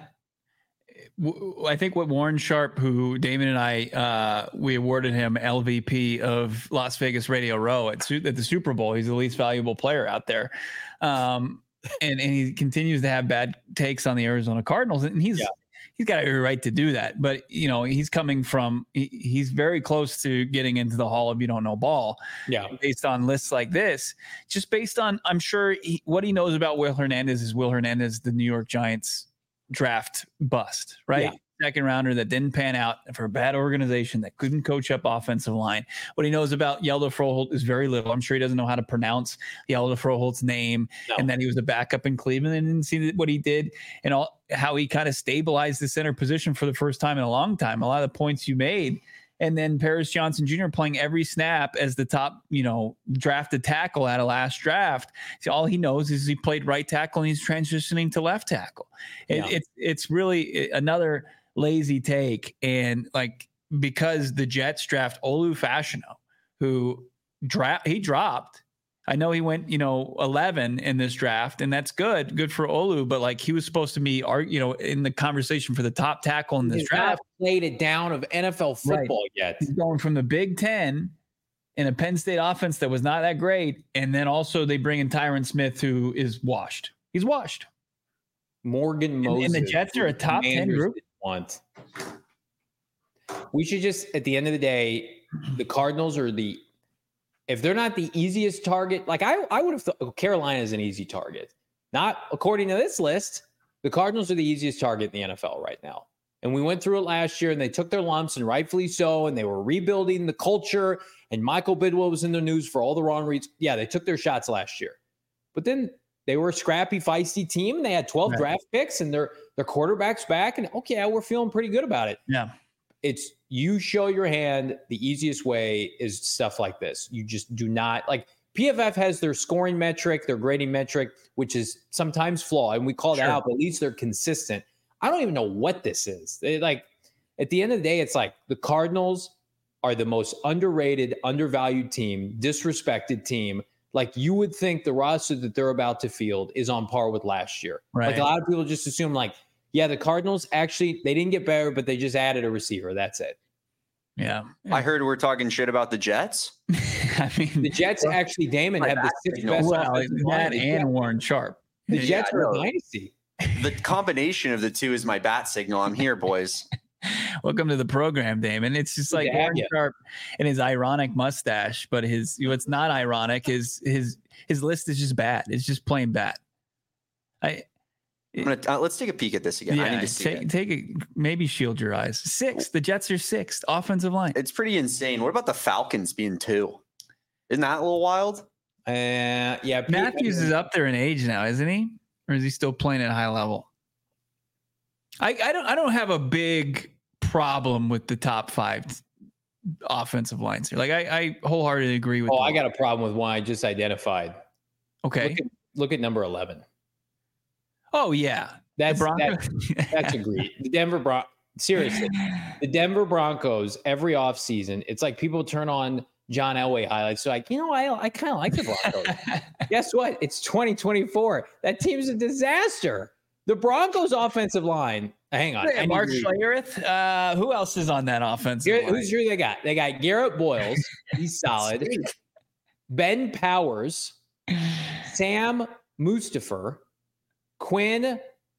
I think what Warren Sharp, who Damon and I, uh, we awarded him L V P of Las Vegas Radio Row at, at the Super Bowl. He's the least valuable player out there. Um, and, and he continues to have bad takes on the Arizona Cardinals. And he's, yeah. he's got every right to do that. But, you know, he's coming from, he, he's very close to getting into the Hall of You Don't Know Ball. Yeah. Based on lists like this, just based on, I'm sure he, what he knows about Will Hernandez is Will Hernandez, the New York Giants draft bust, right? Yeah. second rounder that didn't pan out for a bad organization that couldn't coach up offensive line. What he knows about Hjalte Froholt is very little. I'm sure he doesn't know how to pronounce Hjalte Froholt's name, no. and that he was a backup in Cleveland and didn't see what he did and all how he kind of stabilized the center position for the first time in a long time. A lot of the points you made. And then Paris Johnson Junior playing every snap as the top, you know, drafted tackle out of last draft. So all he knows is he played right tackle and he's transitioning to left tackle. It, yeah. It's it's really another lazy take. And like, because the Jets draft Olu Fashanu, who draft he dropped. I know he went, you know, eleven in this draft, and that's good, good for Olu. But like, he was supposed to be, you know, in the conversation for the top tackle in this He's draft. Not played it down of N F L football right. yet. He's going from the Big Ten in a Penn State offense that was not that great, and then also they bring in Tyron Smith, who is washed. He's washed. Morgan Moses. And, and the Jets are a top ten group. Want. We should just, at the end of the day, the Cardinals are the. If they're not the easiest target, like I, I would have thought Carolina is an easy target. Not according to this list. The Cardinals are the easiest target in the N F L right now. And we went through it last year and they took their lumps, and rightfully so. And they were rebuilding the culture, and Michael Bidwell was in the news for all the wrong reasons. Yeah, they took their shots last year. But then they were a scrappy, feisty team, and they had twelve right. draft picks, and their their quarterback's back. And okay, yeah, we're feeling pretty good about it. Yeah. It's you show your hand. The easiest way is stuff like this. You just do not like P F F has their scoring metric, their grading metric, which is sometimes flawed. And we call that sure. out, but at least they're consistent. I don't even know what this is. They, like at the end of the day, it's like the Cardinals are the most underrated, undervalued team, disrespected team. Like you would think the roster that they're about to field is on par with last year. Right. Like a lot of people just assume like, yeah, the Cardinals actually, they didn't get better, but they just added a receiver. That's it. Yeah. I heard we're talking shit about the Jets. I mean, the Jets well, actually, Damon, have the sixth best. Well, that and Warren Sharp. The yeah, Jets are a dynasty. The combination of the two is my bat signal. I'm here, boys. Welcome to the program, Damon. It's just like Warren Sharp and his ironic mustache, but his what's not ironic is his his list is just bad. It's just plain bad. I. I'm gonna, uh, let's take a peek at this again. Yeah, I need to see take, it. Take it. Maybe shield your eyes. Sixth. The Jets are sixth. Offensive line. It's pretty insane. What about the Falcons being two? Isn't that a little wild? Uh, yeah. Matthews is up there in age now, isn't he? Or is he still playing at a high level? I, I don't. I don't have a big problem with the top five offensive lines here. Like I, I wholeheartedly agree with. Oh, I got a problem with one I just identified. Okay. Look at, look at number eleven. Oh yeah, that's that, that's agreed. The Denver Bron- seriously, the Denver Broncos every offseason, it's like people turn on John Elway highlights. So like, you know, I I kind of like the Broncos. Guess what? It's twenty twenty-four. That team's a disaster. The Broncos offensive line. Hang on, hey, Mark Schlereth. Uh, who else is on that offensive Garrett, line? Who's who they got? They got Garrett Boyles. He's solid. Ben Powers, Sam Mustipher. Quinn,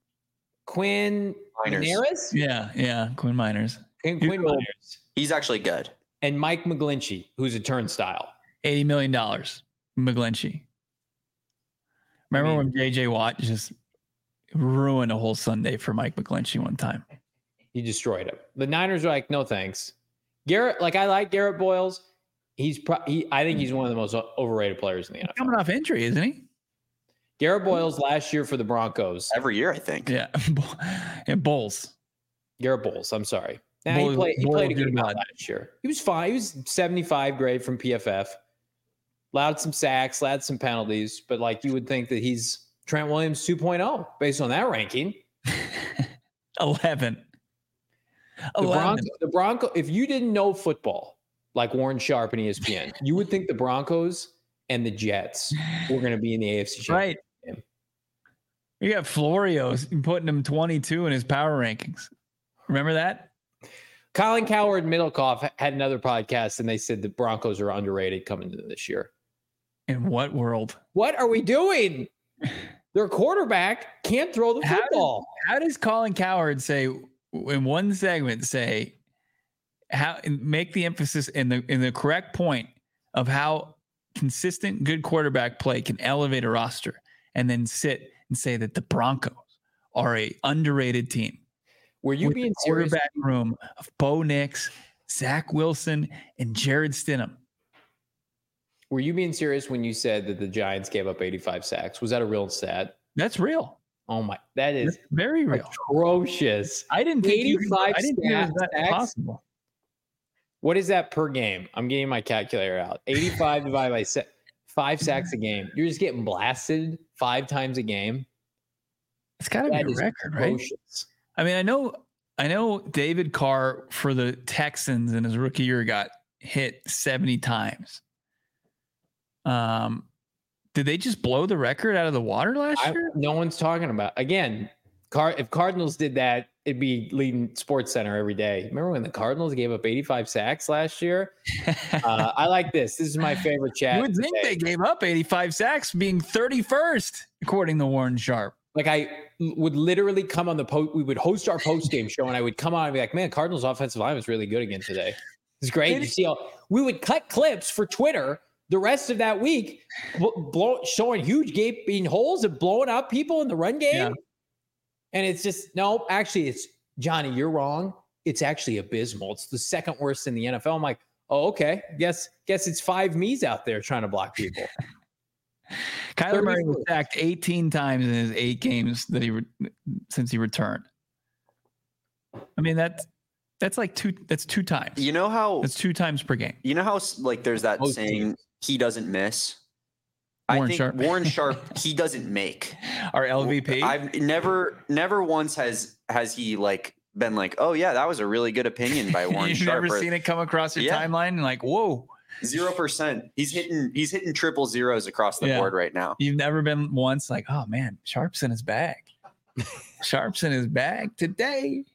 Quinn Miners? Yeah, yeah, Quinn Miners. Quinn, Quinn Miners. He's actually good. And Mike McGlinchey, who's a turnstile. eighty million dollars, McGlinchey. Remember I mean, when J J Watt just ruined a whole Sunday for Mike McGlinchey one time? He destroyed him. The Niners are like, no thanks. Garrett, like I like Garrett Boyles. He's pro- he, I think he's one of the most overrated players in the N F L. Coming off injury, isn't he? Garrett Boyles last year for the Broncos. Every year, I think. Yeah. And Bowles. Garrett Bowles, I'm sorry. Now Bowles, he played, he played a good amount God. last year. He was fine. He was seventy-five grade from P F F. Allowed some sacks, allowed some penalties, but like you would think that he's Trent Williams two point oh based on that ranking. eleven. The Bronco, the Bronco, if you didn't know football like Warren Sharp and E S P N, you would think the Broncos and the Jets were going to be in the A F C Championship. Right. You got Florio putting him twenty-two in his power rankings. Remember that? Colin Cowherd and Middlecoff had another podcast, and they said the Broncos are underrated coming into this year. In what world? What are we doing? Their quarterback can't throw the football. How does, how does Colin Cowherd say in one segment say how make the emphasis in the in the correct point of how consistent good quarterback play can elevate a roster, and then sit and say that the Broncos are a underrated team? Were you with being the serious? quarterback room of Bo Nix, Zach Wilson, and Jared Stidham. Were you being serious when you said that the Giants gave up eighty-five sacks? Was that a real stat? That's real. Oh my, that is That's very real. Atrocious. I didn't think you could, eighty-five I didn't think it was that sacks? possible. What is that per game? I'm getting my calculator out. eighty-five divided by se- five sacks a game. You're just getting blasted five times a game. It's got to be That a is record, right? atrocious. I mean, I know, I know David Carr for the Texans in his rookie year got hit seventy times. Um, did they just blow the record out of the water last I, year? no one's talking about again. Car if Cardinals did that, it'd be leading Sports Center every day. Remember when the Cardinals gave up eighty-five sacks last year? uh, I like this. This is my favorite chat. You would think today. they gave up eighty-five sacks, being thirty-first, according to Warren Sharp. Like I would literally come on the post. We would host our post game show, and I would come on and be like, "Man, Cardinals offensive line was really good again today. It's great." You see, all, we would cut clips for Twitter the rest of that week, blow, showing huge gaping holes and blowing out people in the run game. Yeah. And it's just no. Actually, it's Johnny. You're wrong. It's actually abysmal. It's the second worst in the N F L. I'm like, oh, okay. Guess guess it's five me's out there trying to block people. Kyler Murray was sacked eighteen times in his eight games that he re- since he returned. I mean, that's that's like two. That's two times. You know how That's two times per game. you know how like there's that Most saying teams. he doesn't miss. Warren I think Sharp. Warren Sharp he doesn't make. Our L V P. I've never never once has has he like been like, oh yeah, that was a really good opinion by Warren You've Sharp. never or- seen it come across your Yeah. timeline and like, whoa. Zero percent. He's hitting. He's hitting triple zeros across the Yeah. board right now. You've never been once like, oh man, Sharp's in his bag. Sharp's in his bag today.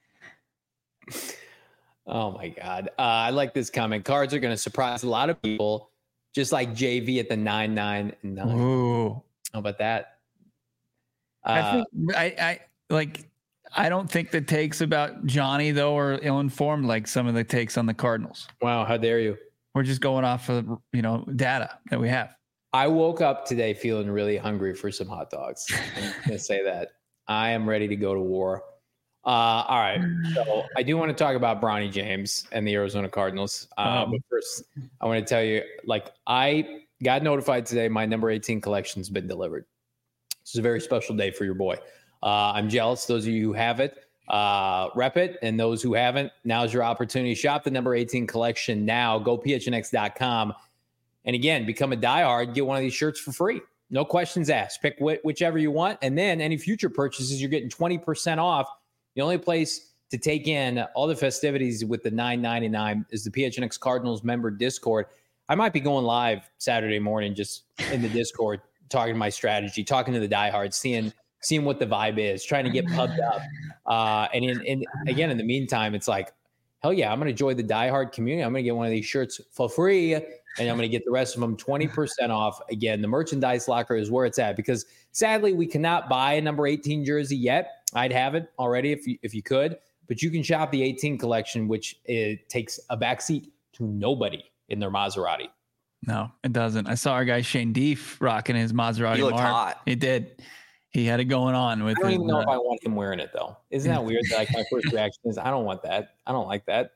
Oh my God. Uh, I like this comment. Cards are going to surprise a lot of people, just like J V at the nine, nine, and nine. Ooh. How about that? Uh, I think I, I like I don't think the takes about Johnny though are ill-informed like some of the takes on the Cardinals. wow. How dare you? We're just going off of, you know, data that we have. I woke up today feeling really hungry for some hot dogs. I'm going to say that. I am ready to go to war. Uh, all right. So I do want to talk about Bronny James and the Arizona Cardinals. Uh, Um, but first, I want to tell you, like, I got notified today my number eighteen collection has been delivered. This is a very special day for your boy. Uh, I'm jealous. Those of you who have it, uh, rep it. And those who haven't, now's your opportunity. Shop the number eighteen collection now. Go P H N X dot com. And again, become a diehard. Get one of these shirts for free. No questions asked. Pick wh- whichever you want. And then any future purchases, you're getting twenty percent off. The only place to take in all the festivities with the nine ninety-nine is the P H N X Cardinals member Discord. I might be going live Saturday morning just in the Discord, talking to my strategy, talking to the diehards, seeing seeing what the vibe is, trying to get pumped up. Uh, and in, in again, in the meantime, it's like, hell yeah, I'm going to join the diehard community. I'm going to get one of these shirts for free, and I'm going to get the rest of them twenty percent off. Again, the merchandise locker is where it's at because sadly we cannot buy a number eighteen jersey yet. I'd have it already if you, if you could, but you can shop the eighteen collection, which it takes a backseat to nobody in their Maserati. No, it doesn't. I saw our guy Shane Deef rocking his Maserati. He looked Mark. hot. He did. He had it going on with I don't his, even know uh, if I want him wearing it though. Isn't that weird? That like my first reaction is I don't want that. I don't like that.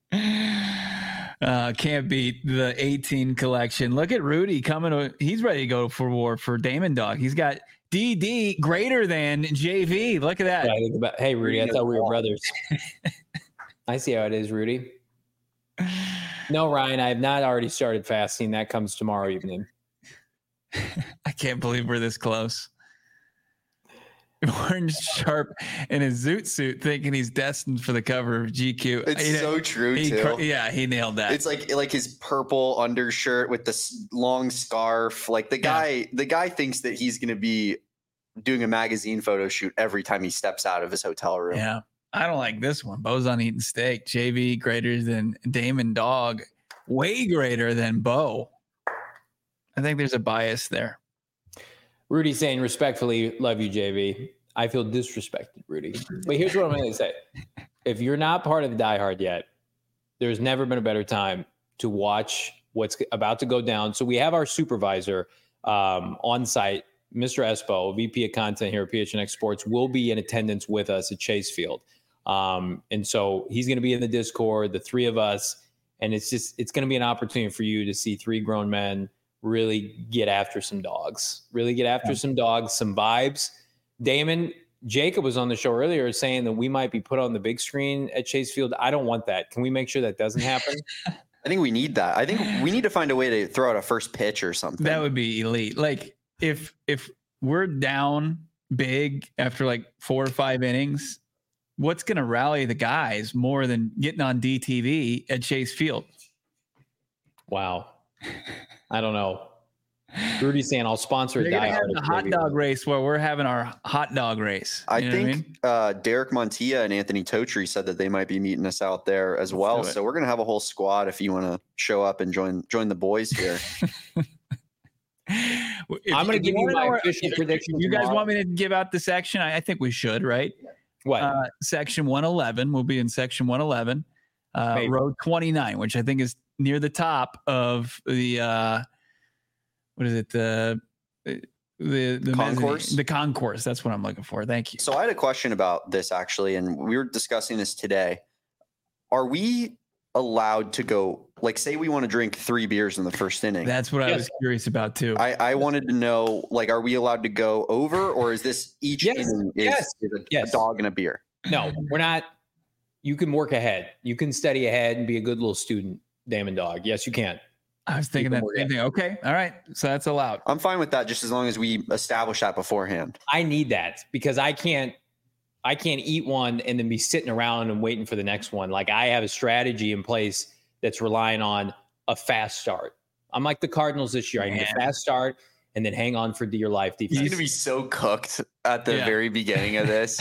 Uh, can't beat the eighteen collection. Look at Rudy coming to, he's ready to go for war for Damon Dog. He's got D D greater than J V. Look at that. Yeah, I think about, hey, Rudy, I thought we were brothers. I see how it is, Rudy. No, Ryan, I have not already started fasting. That comes tomorrow evening. I can't believe we're this close. Warren Sharp in his zoot suit thinking he's destined for the cover of G Q. It's He- so true he, too. Yeah, he nailed that. It's like like his purple undershirt with this long scarf. Like the guy, the guy thinks that he's going to be doing a magazine photo shoot every time he steps out of his hotel room. Yeah. I don't like this one. Bo's on eating steak. J V greater than Damon Dog. Way greater than Bo. I think there's a bias there. Rudy saying respectfully, love you, J V. I feel disrespected, Rudy. But here's what I'm going to say. If you're not part of the Die Hard yet, there's never been a better time to watch what's about to go down. So we have our supervisor um, on site, Mister Espo, V P of content here at P H N X Sports, will be in attendance with us at Chase Field. Um, and so he's going to be in the Discord, the three of us, and it's just, it's going to be an opportunity for you to see three grown men really get after some dogs, really get after yeah. some dogs, some vibes. Damon, Jacob was on the show earlier saying that we might be put on the big screen at Chase Field. I don't want that. Can we make sure that doesn't happen? I think we need that. I think we need to find a way to throw out a first pitch or something. That would be elite. Like if, if we're down big after like four or five innings, what's going to rally the guys more than getting on D T V at Chase Field? Wow. I don't know. Rudy's saying I'll sponsor a Die Hard. The hot dog race where we're having our hot dog race. I you know think I mean? uh, Derek Montilla and Anthony Totri said that they might be meeting us out there as well. So we're going to have a whole squad if you want to show up and join join the boys here. I'm going to give you my know, official prediction. You tomorrow. guys want me to give out the section? I, I think we should, right? What? Uh, section one eleven. We'll be in section one eleven, uh, row twenty-nine, which I think is near the top of the, uh, what is it? The, the, the concourse, the concourse. That's what I'm looking for. Thank you. So I had a question about this actually, and we were discussing this today. Are we allowed to go, like, say we want to drink three beers in the first inning? That's what yes. I was curious about too. I, I wanted to know, like, are we allowed to go over, or is this each yes. inning is, yes. is a, yes. a dog and a beer? No, we're not. You can work ahead. You can study ahead and be a good little student, Damon Dog. Yes, you can. I was thinking that same thing. Okay. All right. So that's allowed. I'm fine with that, just as long as we establish that beforehand. I need that because I can't, I can't eat one and then be sitting around and waiting for the next one. Like I have a strategy in place that's relying on a fast start. I'm like the Cardinals this year. I need a fast start and then hang on for dear life defense. He's going to be so cooked at the yeah. very beginning of this.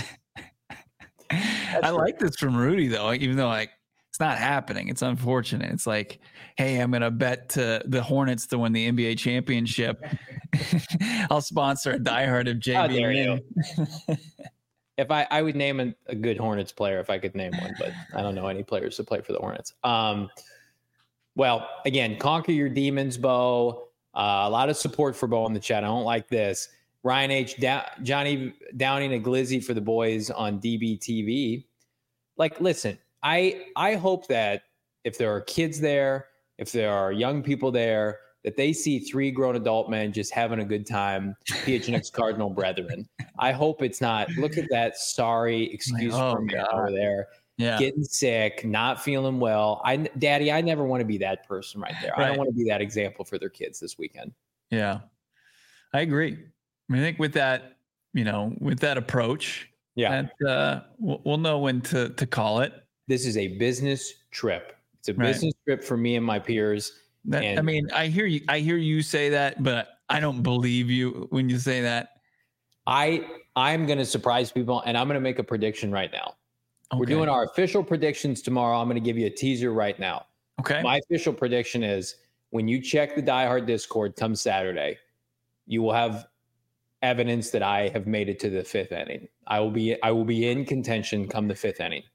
I like this from Rudy though, even though like it's not happening. It's unfortunate. It's like, hey, I'm going to bet to the Hornets to win the N B A championship. I'll sponsor a diehard of J B. Oh, if I, I would name a, a good Hornets player if I could name one, but I don't know any players to play for the Hornets. Um, well, again, conquer your demons, Bo. Uh, a lot of support for Bo in the chat. I don't like this. Ryan H. Da- Johnny Downing a Glizzy for the boys on D B T V. Like, listen, I I hope that if there are kids there, if there are young people there, that they see three grown adult men just having a good time, P H N X Cardinal brethren. I hope it's not, look at that sorry excuse oh, for me over there. Yeah. Getting sick, not feeling well. I, Daddy, I never want to be that person right there. Right. I don't want to be that example for their kids this weekend. Yeah, I agree. I, mean, I think with that, you know, with that approach, yeah, that, uh, we'll, we'll know when to to call it. This is a business trip. It's a right. business trip for me and my peers. That, and I mean, I hear you. I hear you say that, but I don't believe you when you say that. I I'm going to surprise people, and I'm going to make a prediction right now. Okay. We're doing our official predictions tomorrow. I'm going to give you a teaser right now. Okay. My official prediction is when you check the Die Hard Discord come Saturday, you will have evidence that I have made it to the fifth inning. I will be I will be in contention come the fifth inning.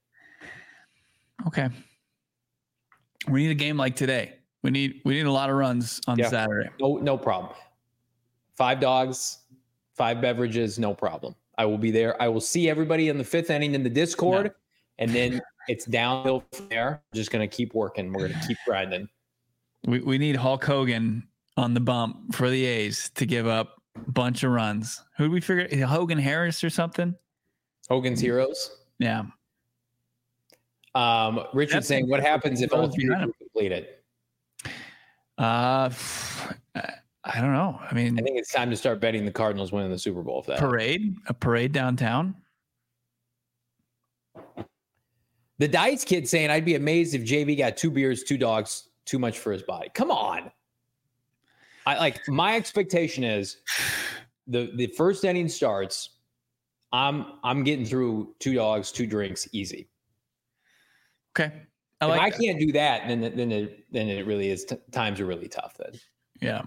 Okay. We need a game like today. We need we need a lot of runs on yeah. Saturday. No, no problem. Five dogs, five beverages, no problem. I will be there. I will see everybody in the fifth inning in the Discord, no. and then it's downhill from there. We're just gonna keep working. We're gonna keep grinding. We we need Hulk Hogan on the bump for the A's to give up a bunch of runs. Who did we figure? Hogan Harris or something? Hogan's Heroes. Yeah. Um, Richard That's saying, what happens if all three are completed? Uh, I don't know. I mean, I think it's time to start betting the Cardinals winning the Super Bowl. If that parade, happens. a parade downtown. The Dice kid saying, I'd be amazed if J V got two beers, two dogs, too much for his body. Come on. I like my expectation is the, the first inning starts. I'm, I'm getting through two dogs, two drinks, easy. Okay. I if like I that. can't do that, then then it then it really is. T- times are really tough. Then, yeah.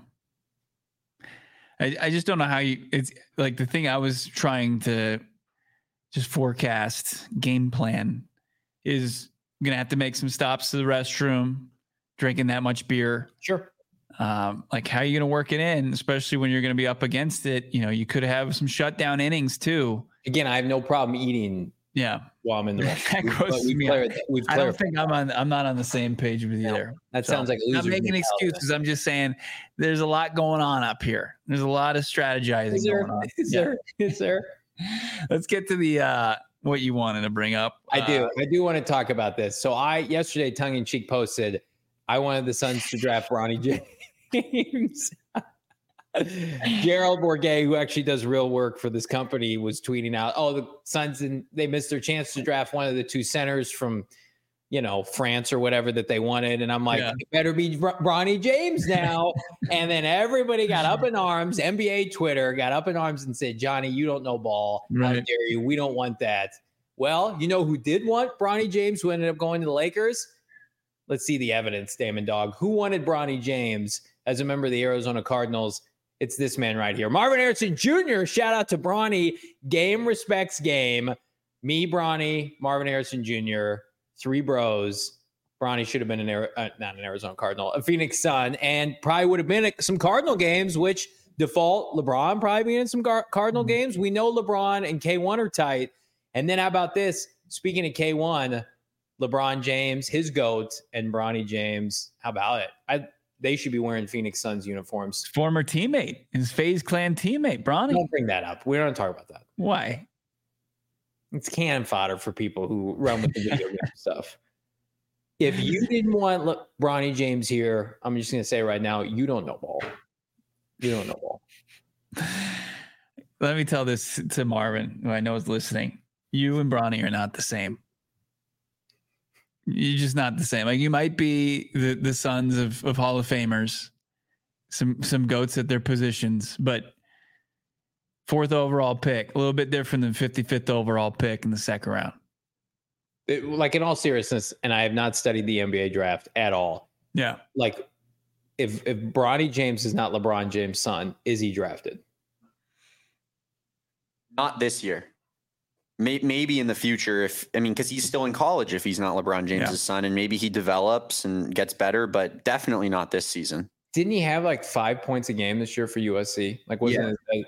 I I just don't know how you. It's like the thing I was trying to just forecast game plan is gonna have to make some stops to the restroom, drinking that much beer. Sure. Um, like how are you gonna work it in, especially when you're gonna be up against it? You know, you could have some shutdown innings too. Again, I have no problem eating Yeah. while I'm in the rest. That We've, grosses we've me out. clarified, we've I don't clarified. think I'm on. I'm not on the same page with you No, there. That So, sounds like a I'm not loser making mentality. excuses. I'm just saying there's a lot going on up here. There's a lot of strategizing Is there? going on. Is Yeah. there? Is there? Let's get to the uh, what you wanted to bring up. I do. Uh, I do want to talk about this. So I yesterday, tongue in cheek, posted I wanted the Suns to draft Bronny James. Gerald Bourguet, who actually does real work for this company, was tweeting out, "Oh, the Suns and they missed their chance to draft one of the two centers from, you know, France or whatever that they wanted." And I'm like, Yeah. "It better be Br- Bronny James now." And then everybody got up in arms. N B A Twitter got up in arms and said, "Johnny, you don't know ball. How Right. dare you? We don't want that." Well, you know who did want Bronny James, who ended up going to the Lakers? Let's see the evidence, Damon Dog. Who wanted Bronny James as a member of the Arizona Cardinals? It's this man right here. Marvin Harrison Junior Shout out to Bronny. Game respects game. Me, Bronny, Marvin Harrison Junior Three bros. Bronny should have been an Ari- uh, not an Arizona Cardinal, a Phoenix Sun, and probably would have been at some Cardinal games, which default LeBron probably being in some Gar- Cardinal games. We know LeBron and K one are tight. And then how about this? Speaking of K one, LeBron James, his GOAT, and Bronny James. How about it? I They should be wearing Phoenix Suns uniforms. former teammate, his FaZe Clan teammate, Bronny. Don't bring that up. We don't talk about that. Why? It's cannon fodder for people who run with the video game stuff. If you didn't want Le- Bronny James here, I'm just going to say right now, you don't know ball. You don't know ball. Let me tell this to Marvin, who I know is listening. You and Bronny are not the same. You're just not the same. Like, you might be the, the sons of, of Hall of Famers, some some goats at their positions, but fourth overall pick, a little bit different than fifty-fifth overall pick in the second round. It- like in all seriousness, and I have not studied the N B A draft at all. Yeah. Like, if if Bronny James is not LeBron James' son, is he drafted? Not this year. May- Maybe in the future, if I mean, because he's still in college. If he's not LeBron James's Yeah. son, and maybe he develops and gets better, but definitely not this season. Didn't he have like five points a game this year for U S C? Like, wasn't Yeah. it? Like,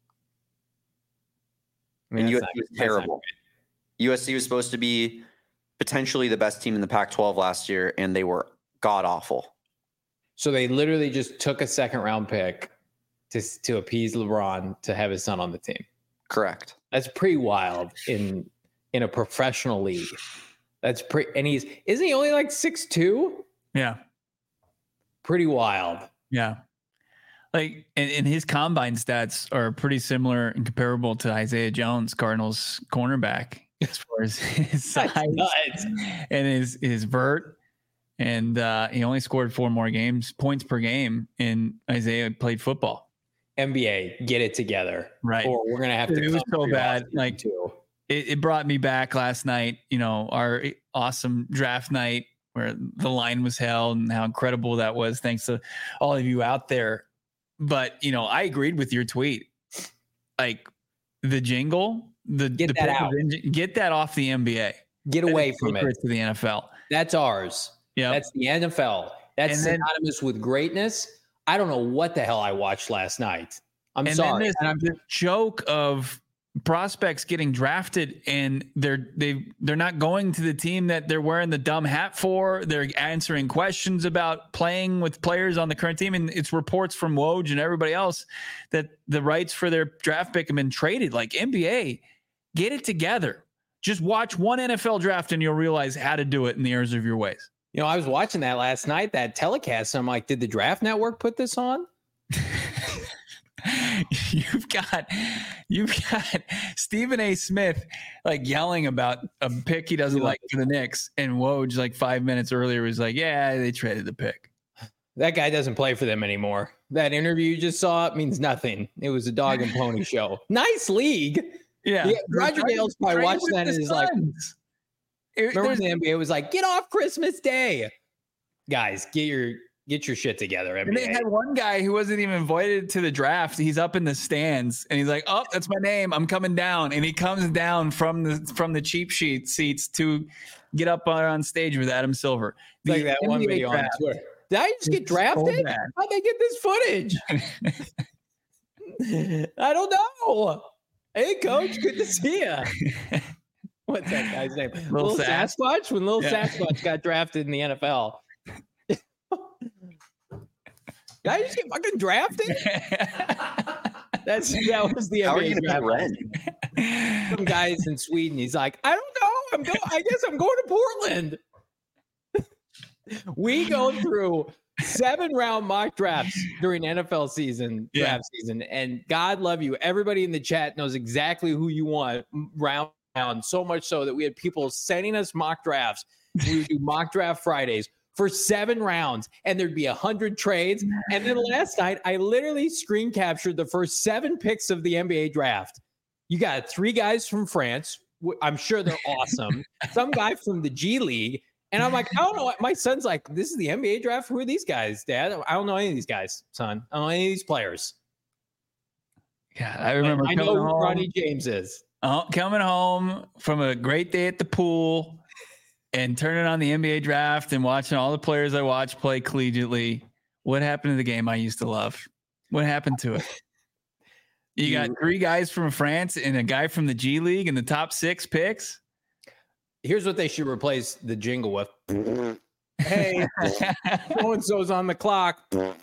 I mean, And that's U S not- C was that's not terrible. U S C was supposed to be potentially the best team in the Pac twelve last year, and they were god awful. So they literally just took a second round pick to to appease LeBron to have his son on the team. Correct. That's pretty wild in in a professional league. That's pretty. And he's isn't he only like six two? Yeah. Pretty wild. Yeah. Like, and, and his combine stats are pretty similar and comparable to Isaiah Jones, Cardinals cornerback, as far as his size That's nuts. and his his vert. And uh, he only scored four more games, points per game, and Isaiah played football. N B A, get it together, Right. or we're gonna have Dude, to. it was come so for your bad, offseason, like- too. It, it brought me back last night, you know, our awesome draft night where the line was held and how incredible that was. Thanks to all of you out there. But, you know, I agreed with your tweet. Like, the jingle, the, Get the that pick of out. engine- get that off the N B A. Get away from it. To the N F L. That's ours. Yeah. That's the N F L. That's And then- synonymous with greatness. I don't know what the hell I watched last night. I'm And sorry. then And I'm there's the joke of prospects getting drafted and they're they they're not going to the team that they're wearing the dumb hat for. They're answering questions about playing with players on the current team, and it's reports from Woj and everybody else that the rights for their draft pick have been traded. Like, N B A, get it together. Just watch one N F L draft and you'll realize how to do it in the errors of your ways. You know, I was watching that last night, that telecast. And I'm like, did the Draft Network put this on? you've got you've got Stephen A. Smith like yelling about a pick he doesn't like for the Knicks, and Woj like five minutes earlier was like, yeah, they traded the pick. That guy doesn't play for them anymore. That interview you just saw means nothing. It was a dog and pony show. Nice league. Yeah, Yeah, Roger Dale's probably Trade watching with that the and is like, Suns. It- remember there's- when the N B A was like, get off Christmas Day. Guys, get your get your shit together, N And B they A. had one guy who wasn't even invited to the draft. He's up in the stands and he's like, "Oh, that's my name. I'm coming down." And he comes down from the from the cheap sheet seats to get up on, on stage with Adam Silver. It's like The that one N B A video on draft Twitter. Did I just get is so drafted? bad. How'd they get this footage? I don't know. Hey, coach, good to see you. What's that guy's name? Little Little Sass? Sasquatch? When Little Yeah. Sasquatch got drafted in the N F L. Did I just get fucking drafted? That's that was the How are N B A you going to draft. pay rent? Some guys in Sweden. He's like, I don't know. I'm going. I guess I'm going to Portland. We go through seven round mock drafts during N F L season, Yeah. draft season, and God love you. Everybody in the chat knows exactly who you want round round. So much so that we had people sending us mock drafts. We would do mock draft Fridays for seven rounds, and there'd be a hundred trades. And then last night, I literally screen captured the first seven picks of the N B A draft. You got three guys from France. W- I'm sure they're awesome. Some guy from the G League. And I'm like, I don't know what my son's like. This is the N B A draft. Who are these guys, Dad? I don't know any of these guys, son. I don't know any of these players. God, I remember I know coming who home, Ronnie James is. uh, coming home from a great day at the pool and turning on the N B A draft and watching all the players I watched play collegiately. What happened to the game I used to love? What happened to it? You got three guys from France and a guy from the G League in the top six picks. Here's what they should replace the jingle with. Hey, so and so's on the clock.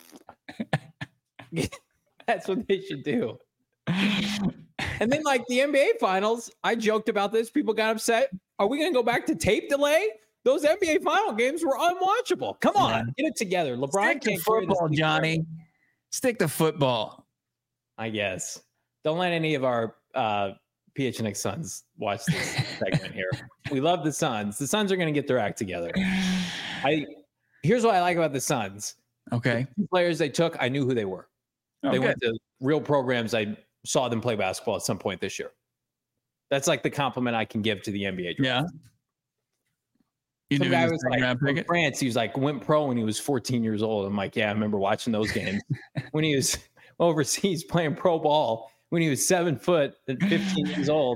That's what they should do. And then, like the N B A finals, I joked about this. People got upset. Are we going to go back to tape delay? Those N B A final games were unwatchable. Come on, Yeah. get it together. LeBron Stick to can't carry this football, team Johnny. forever. Stick to football. I guess. Don't let any of our uh, P H N X Suns watch this segment here. We love the Suns. The Suns are going to get their act together. I here's what I like about the Suns. Okay. The players they took, I knew who they were. Oh, they good. went to real programs. I saw them play basketball at some point this year. That's like the compliment I can give to the N B A draft. Yeah. You Some knew guy he was was second like round from pick. France. He was like went pro when he was fourteen years old. I'm like, yeah, I remember watching those games when he was overseas playing pro ball when he was seven foot and fifteen years old.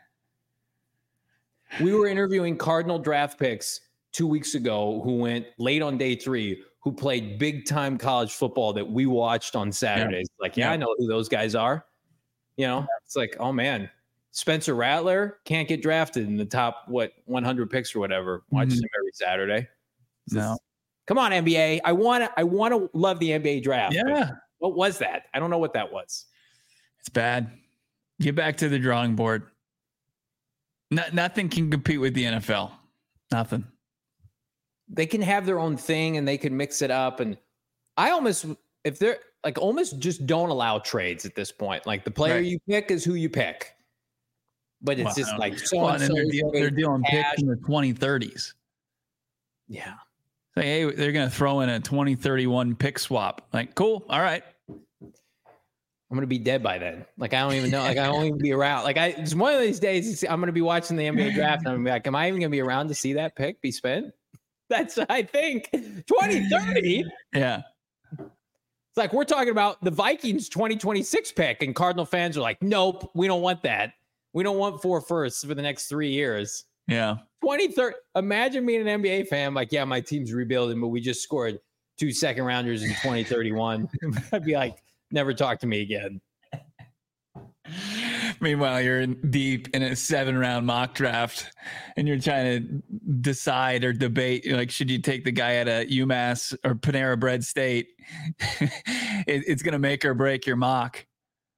We were interviewing Cardinal draft picks two weeks ago who went late on day three, who played big time college football that we watched on Saturdays. Like, yeah, Yeah. I know who those guys are. You know, it's like, oh man, Spencer Rattler can't get drafted in the top, what, one hundred picks or whatever. Watch Mhm. him every Saturday. It's No. just- Come on, N B A. I want to, I want to love the N B A draft. but Yeah. What was that? I don't know what that was. It's bad. Get back to the drawing board. No, nothing can compete with the N F L. Nothing. They can have their own thing and they can mix it up. And I almost, if they're like, almost just don't allow trades at this point. Like the player Right. you pick is who you pick. But it's Well, just like so Well, and and so. they're, deal- they're dealing picks in the twenty thirties. Yeah. Like, hey, they're going to throw in a twenty thirty-one pick swap. Like, cool. All right. I'm gonna be dead by then. Like I don't even know. Like I won't even be around. Like I, it's one of these days. it's- I'm gonna be watching the N B A draft, and I'm gonna be like, am I even gonna be around to see that pick be spent? That's I think twenty thirty. Yeah. It's like we're talking about the Vikings twenty twenty-six pick, and Cardinal fans are like, nope, we don't want that. We don't want four firsts for the next three years. Yeah. twenty thirty. Imagine being an N B A fan. Like, yeah, my team's rebuilding, but we just scored two second rounders in twenty thirty-one. I'd be like, never talk to me again. Meanwhile, you're in deep in a seven round mock draft and you're trying to decide or debate, like, should you take the guy at a UMass or Panera Bread State? it, it's going to make or break your mock.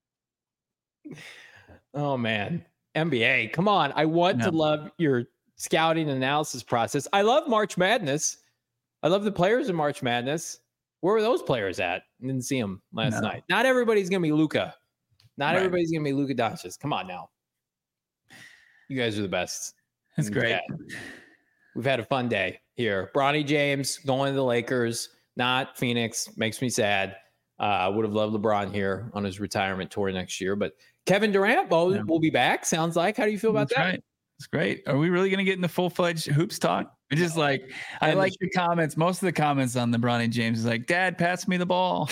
Oh man, N B A, come on! I want to No. love your scouting and analysis process. I love March Madness. I love the players in March Madness. Where were those players at? I didn't see them last No. night. Not everybody's gonna be Luka. Not Right. everybody's gonna be Luka Doncic. Come on now, you guys are the best. That's And great. yeah, we've had a fun day here. Bronny James going to the Lakers, not Phoenix. Makes me sad. I uh, would have loved LeBron here on his retirement tour next year, but Kevin Durant will, Yeah. will be back. Sounds like. How do you feel about That's that? right. It's great. Are we really going to get into full fledged hoops talk? It's just like, I And like the comments. Most of the comments on the Bronny James is like, Dad, pass me the ball.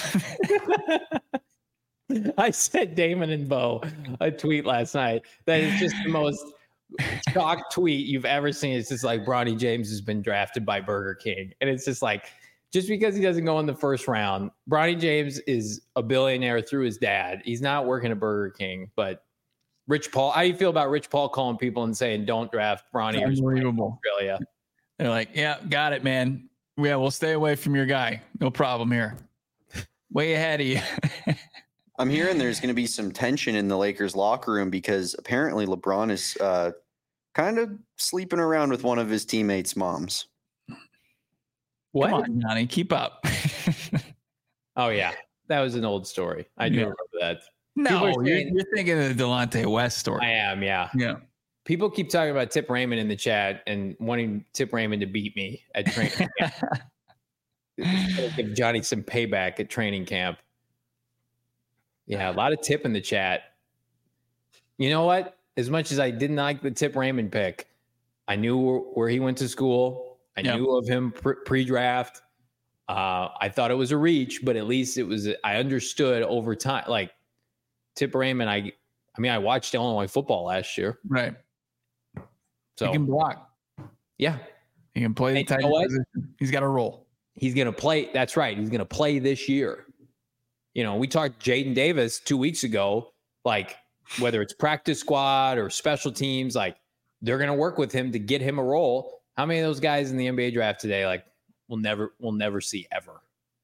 I sent Damon and Bo a tweet last night that is just the most shock tweet you've ever seen. It's just like Bronny James has been drafted by Burger King. And it's just like, just because he doesn't go in the first round, Bronny James is a billionaire through his dad. He's not working at Burger King, but Rich Paul. How do you feel about Rich Paul calling people and saying, don't draft Bronny or Unbelievable. Australia? They're like, yeah, got it, man. Yeah, we'll stay away from your guy. No problem here. Way ahead of you. I'm hearing there's going to be some tension in the Lakers locker room because apparently LeBron is uh, kind of sleeping around with one of his teammates' moms. What? Come on, Johnny, keep up. Oh, yeah. That was an old story. I do Yeah. remember that. No, People are you're, saying- you're thinking of the Delonte West story. I am, yeah. Yeah. People keep talking about Tip Raymond in the chat and wanting Tip Raymond to beat me at training camp. Give Johnny some payback at training camp. Yeah, a lot of Tip in the chat. You know what? As much as I didn't like the Tip Raymond pick, I knew where, where he went to school. I Yep. knew of him pre- pre-draft. Uh, I thought it was a reach, but at least it was. I understood over time. Like Tip Raymond, I, I mean, I watched Illinois football last year, Right. so He can block. yeah, He can play the And you tight know what? position. He's got a role. he's going to play. That's right. He's going to play this year. You know, we talked Jaden Davis two weeks ago, like whether it's practice squad or special teams, like they're going to work with him to get him a role. How many of those guys in the N B A draft today, like we'll never, we'll never see ever.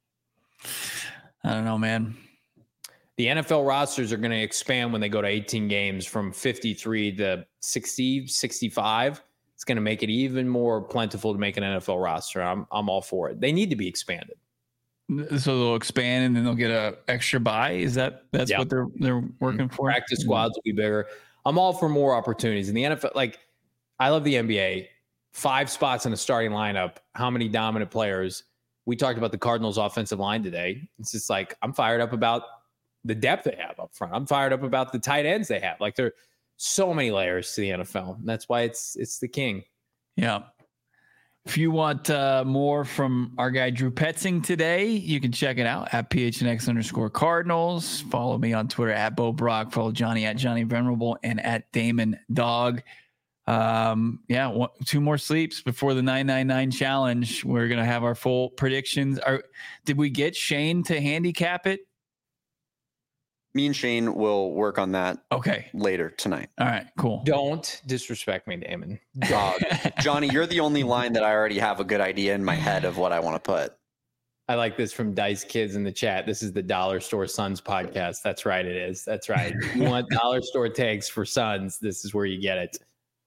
I don't know, man. The N F L rosters are going to expand when they go to eighteen games from fifty-three to sixty, sixty-five. It's going to make it even more plentiful to make an N F L roster. I'm, I'm all for it. They need to be expanded. So they'll expand and then they'll get a extra buy. Is that that's Yeah. what they're they're working for? Practice squads will be bigger. I'm all for more opportunities in the N F L. Like, I love the N B A. Five spots in a starting lineup. How many dominant players? We talked about the Cardinals' offensive line today. It's just like I'm fired up about the depth they have up front. I'm fired up about the tight ends they have. Like, there are so many layers to the N F L. And that's why it's it's the king. Yeah. If you want uh, more from our guy Drew Petzing today, you can check it out at P H N X underscore Cardinals. Follow me on Twitter at Bo Brock. Follow Johnny at Johnny Venerable and at Damon Dog. Um, yeah, one, two more sleeps before the nine nine nine challenge. We're gonna have our full predictions. Are did we get Shane to handicap it? Me and Shane will work on that Okay. later tonight. All right. Cool. Don't disrespect me, Damon. Uh, Johnny, you're the only line that I already have a good idea in my head of what I want to put. I like this from Dice Kids in the chat. This is the Dollar Store Suns podcast. That's right. It is. That's right. You want Dollar Store takes for Suns. This is where you get it.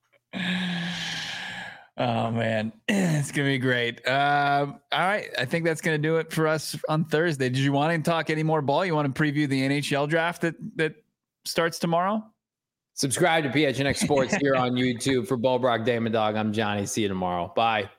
Oh man, it's gonna be great. Um, all right, I think that's gonna do it for us on Thursday. Did you want to talk any more ball? You want to preview the N H L draft that that starts tomorrow? Subscribe to P H N X Sports here on YouTube. For Bo Brock, Damon Dog, I'm Johnny. See you tomorrow. Bye.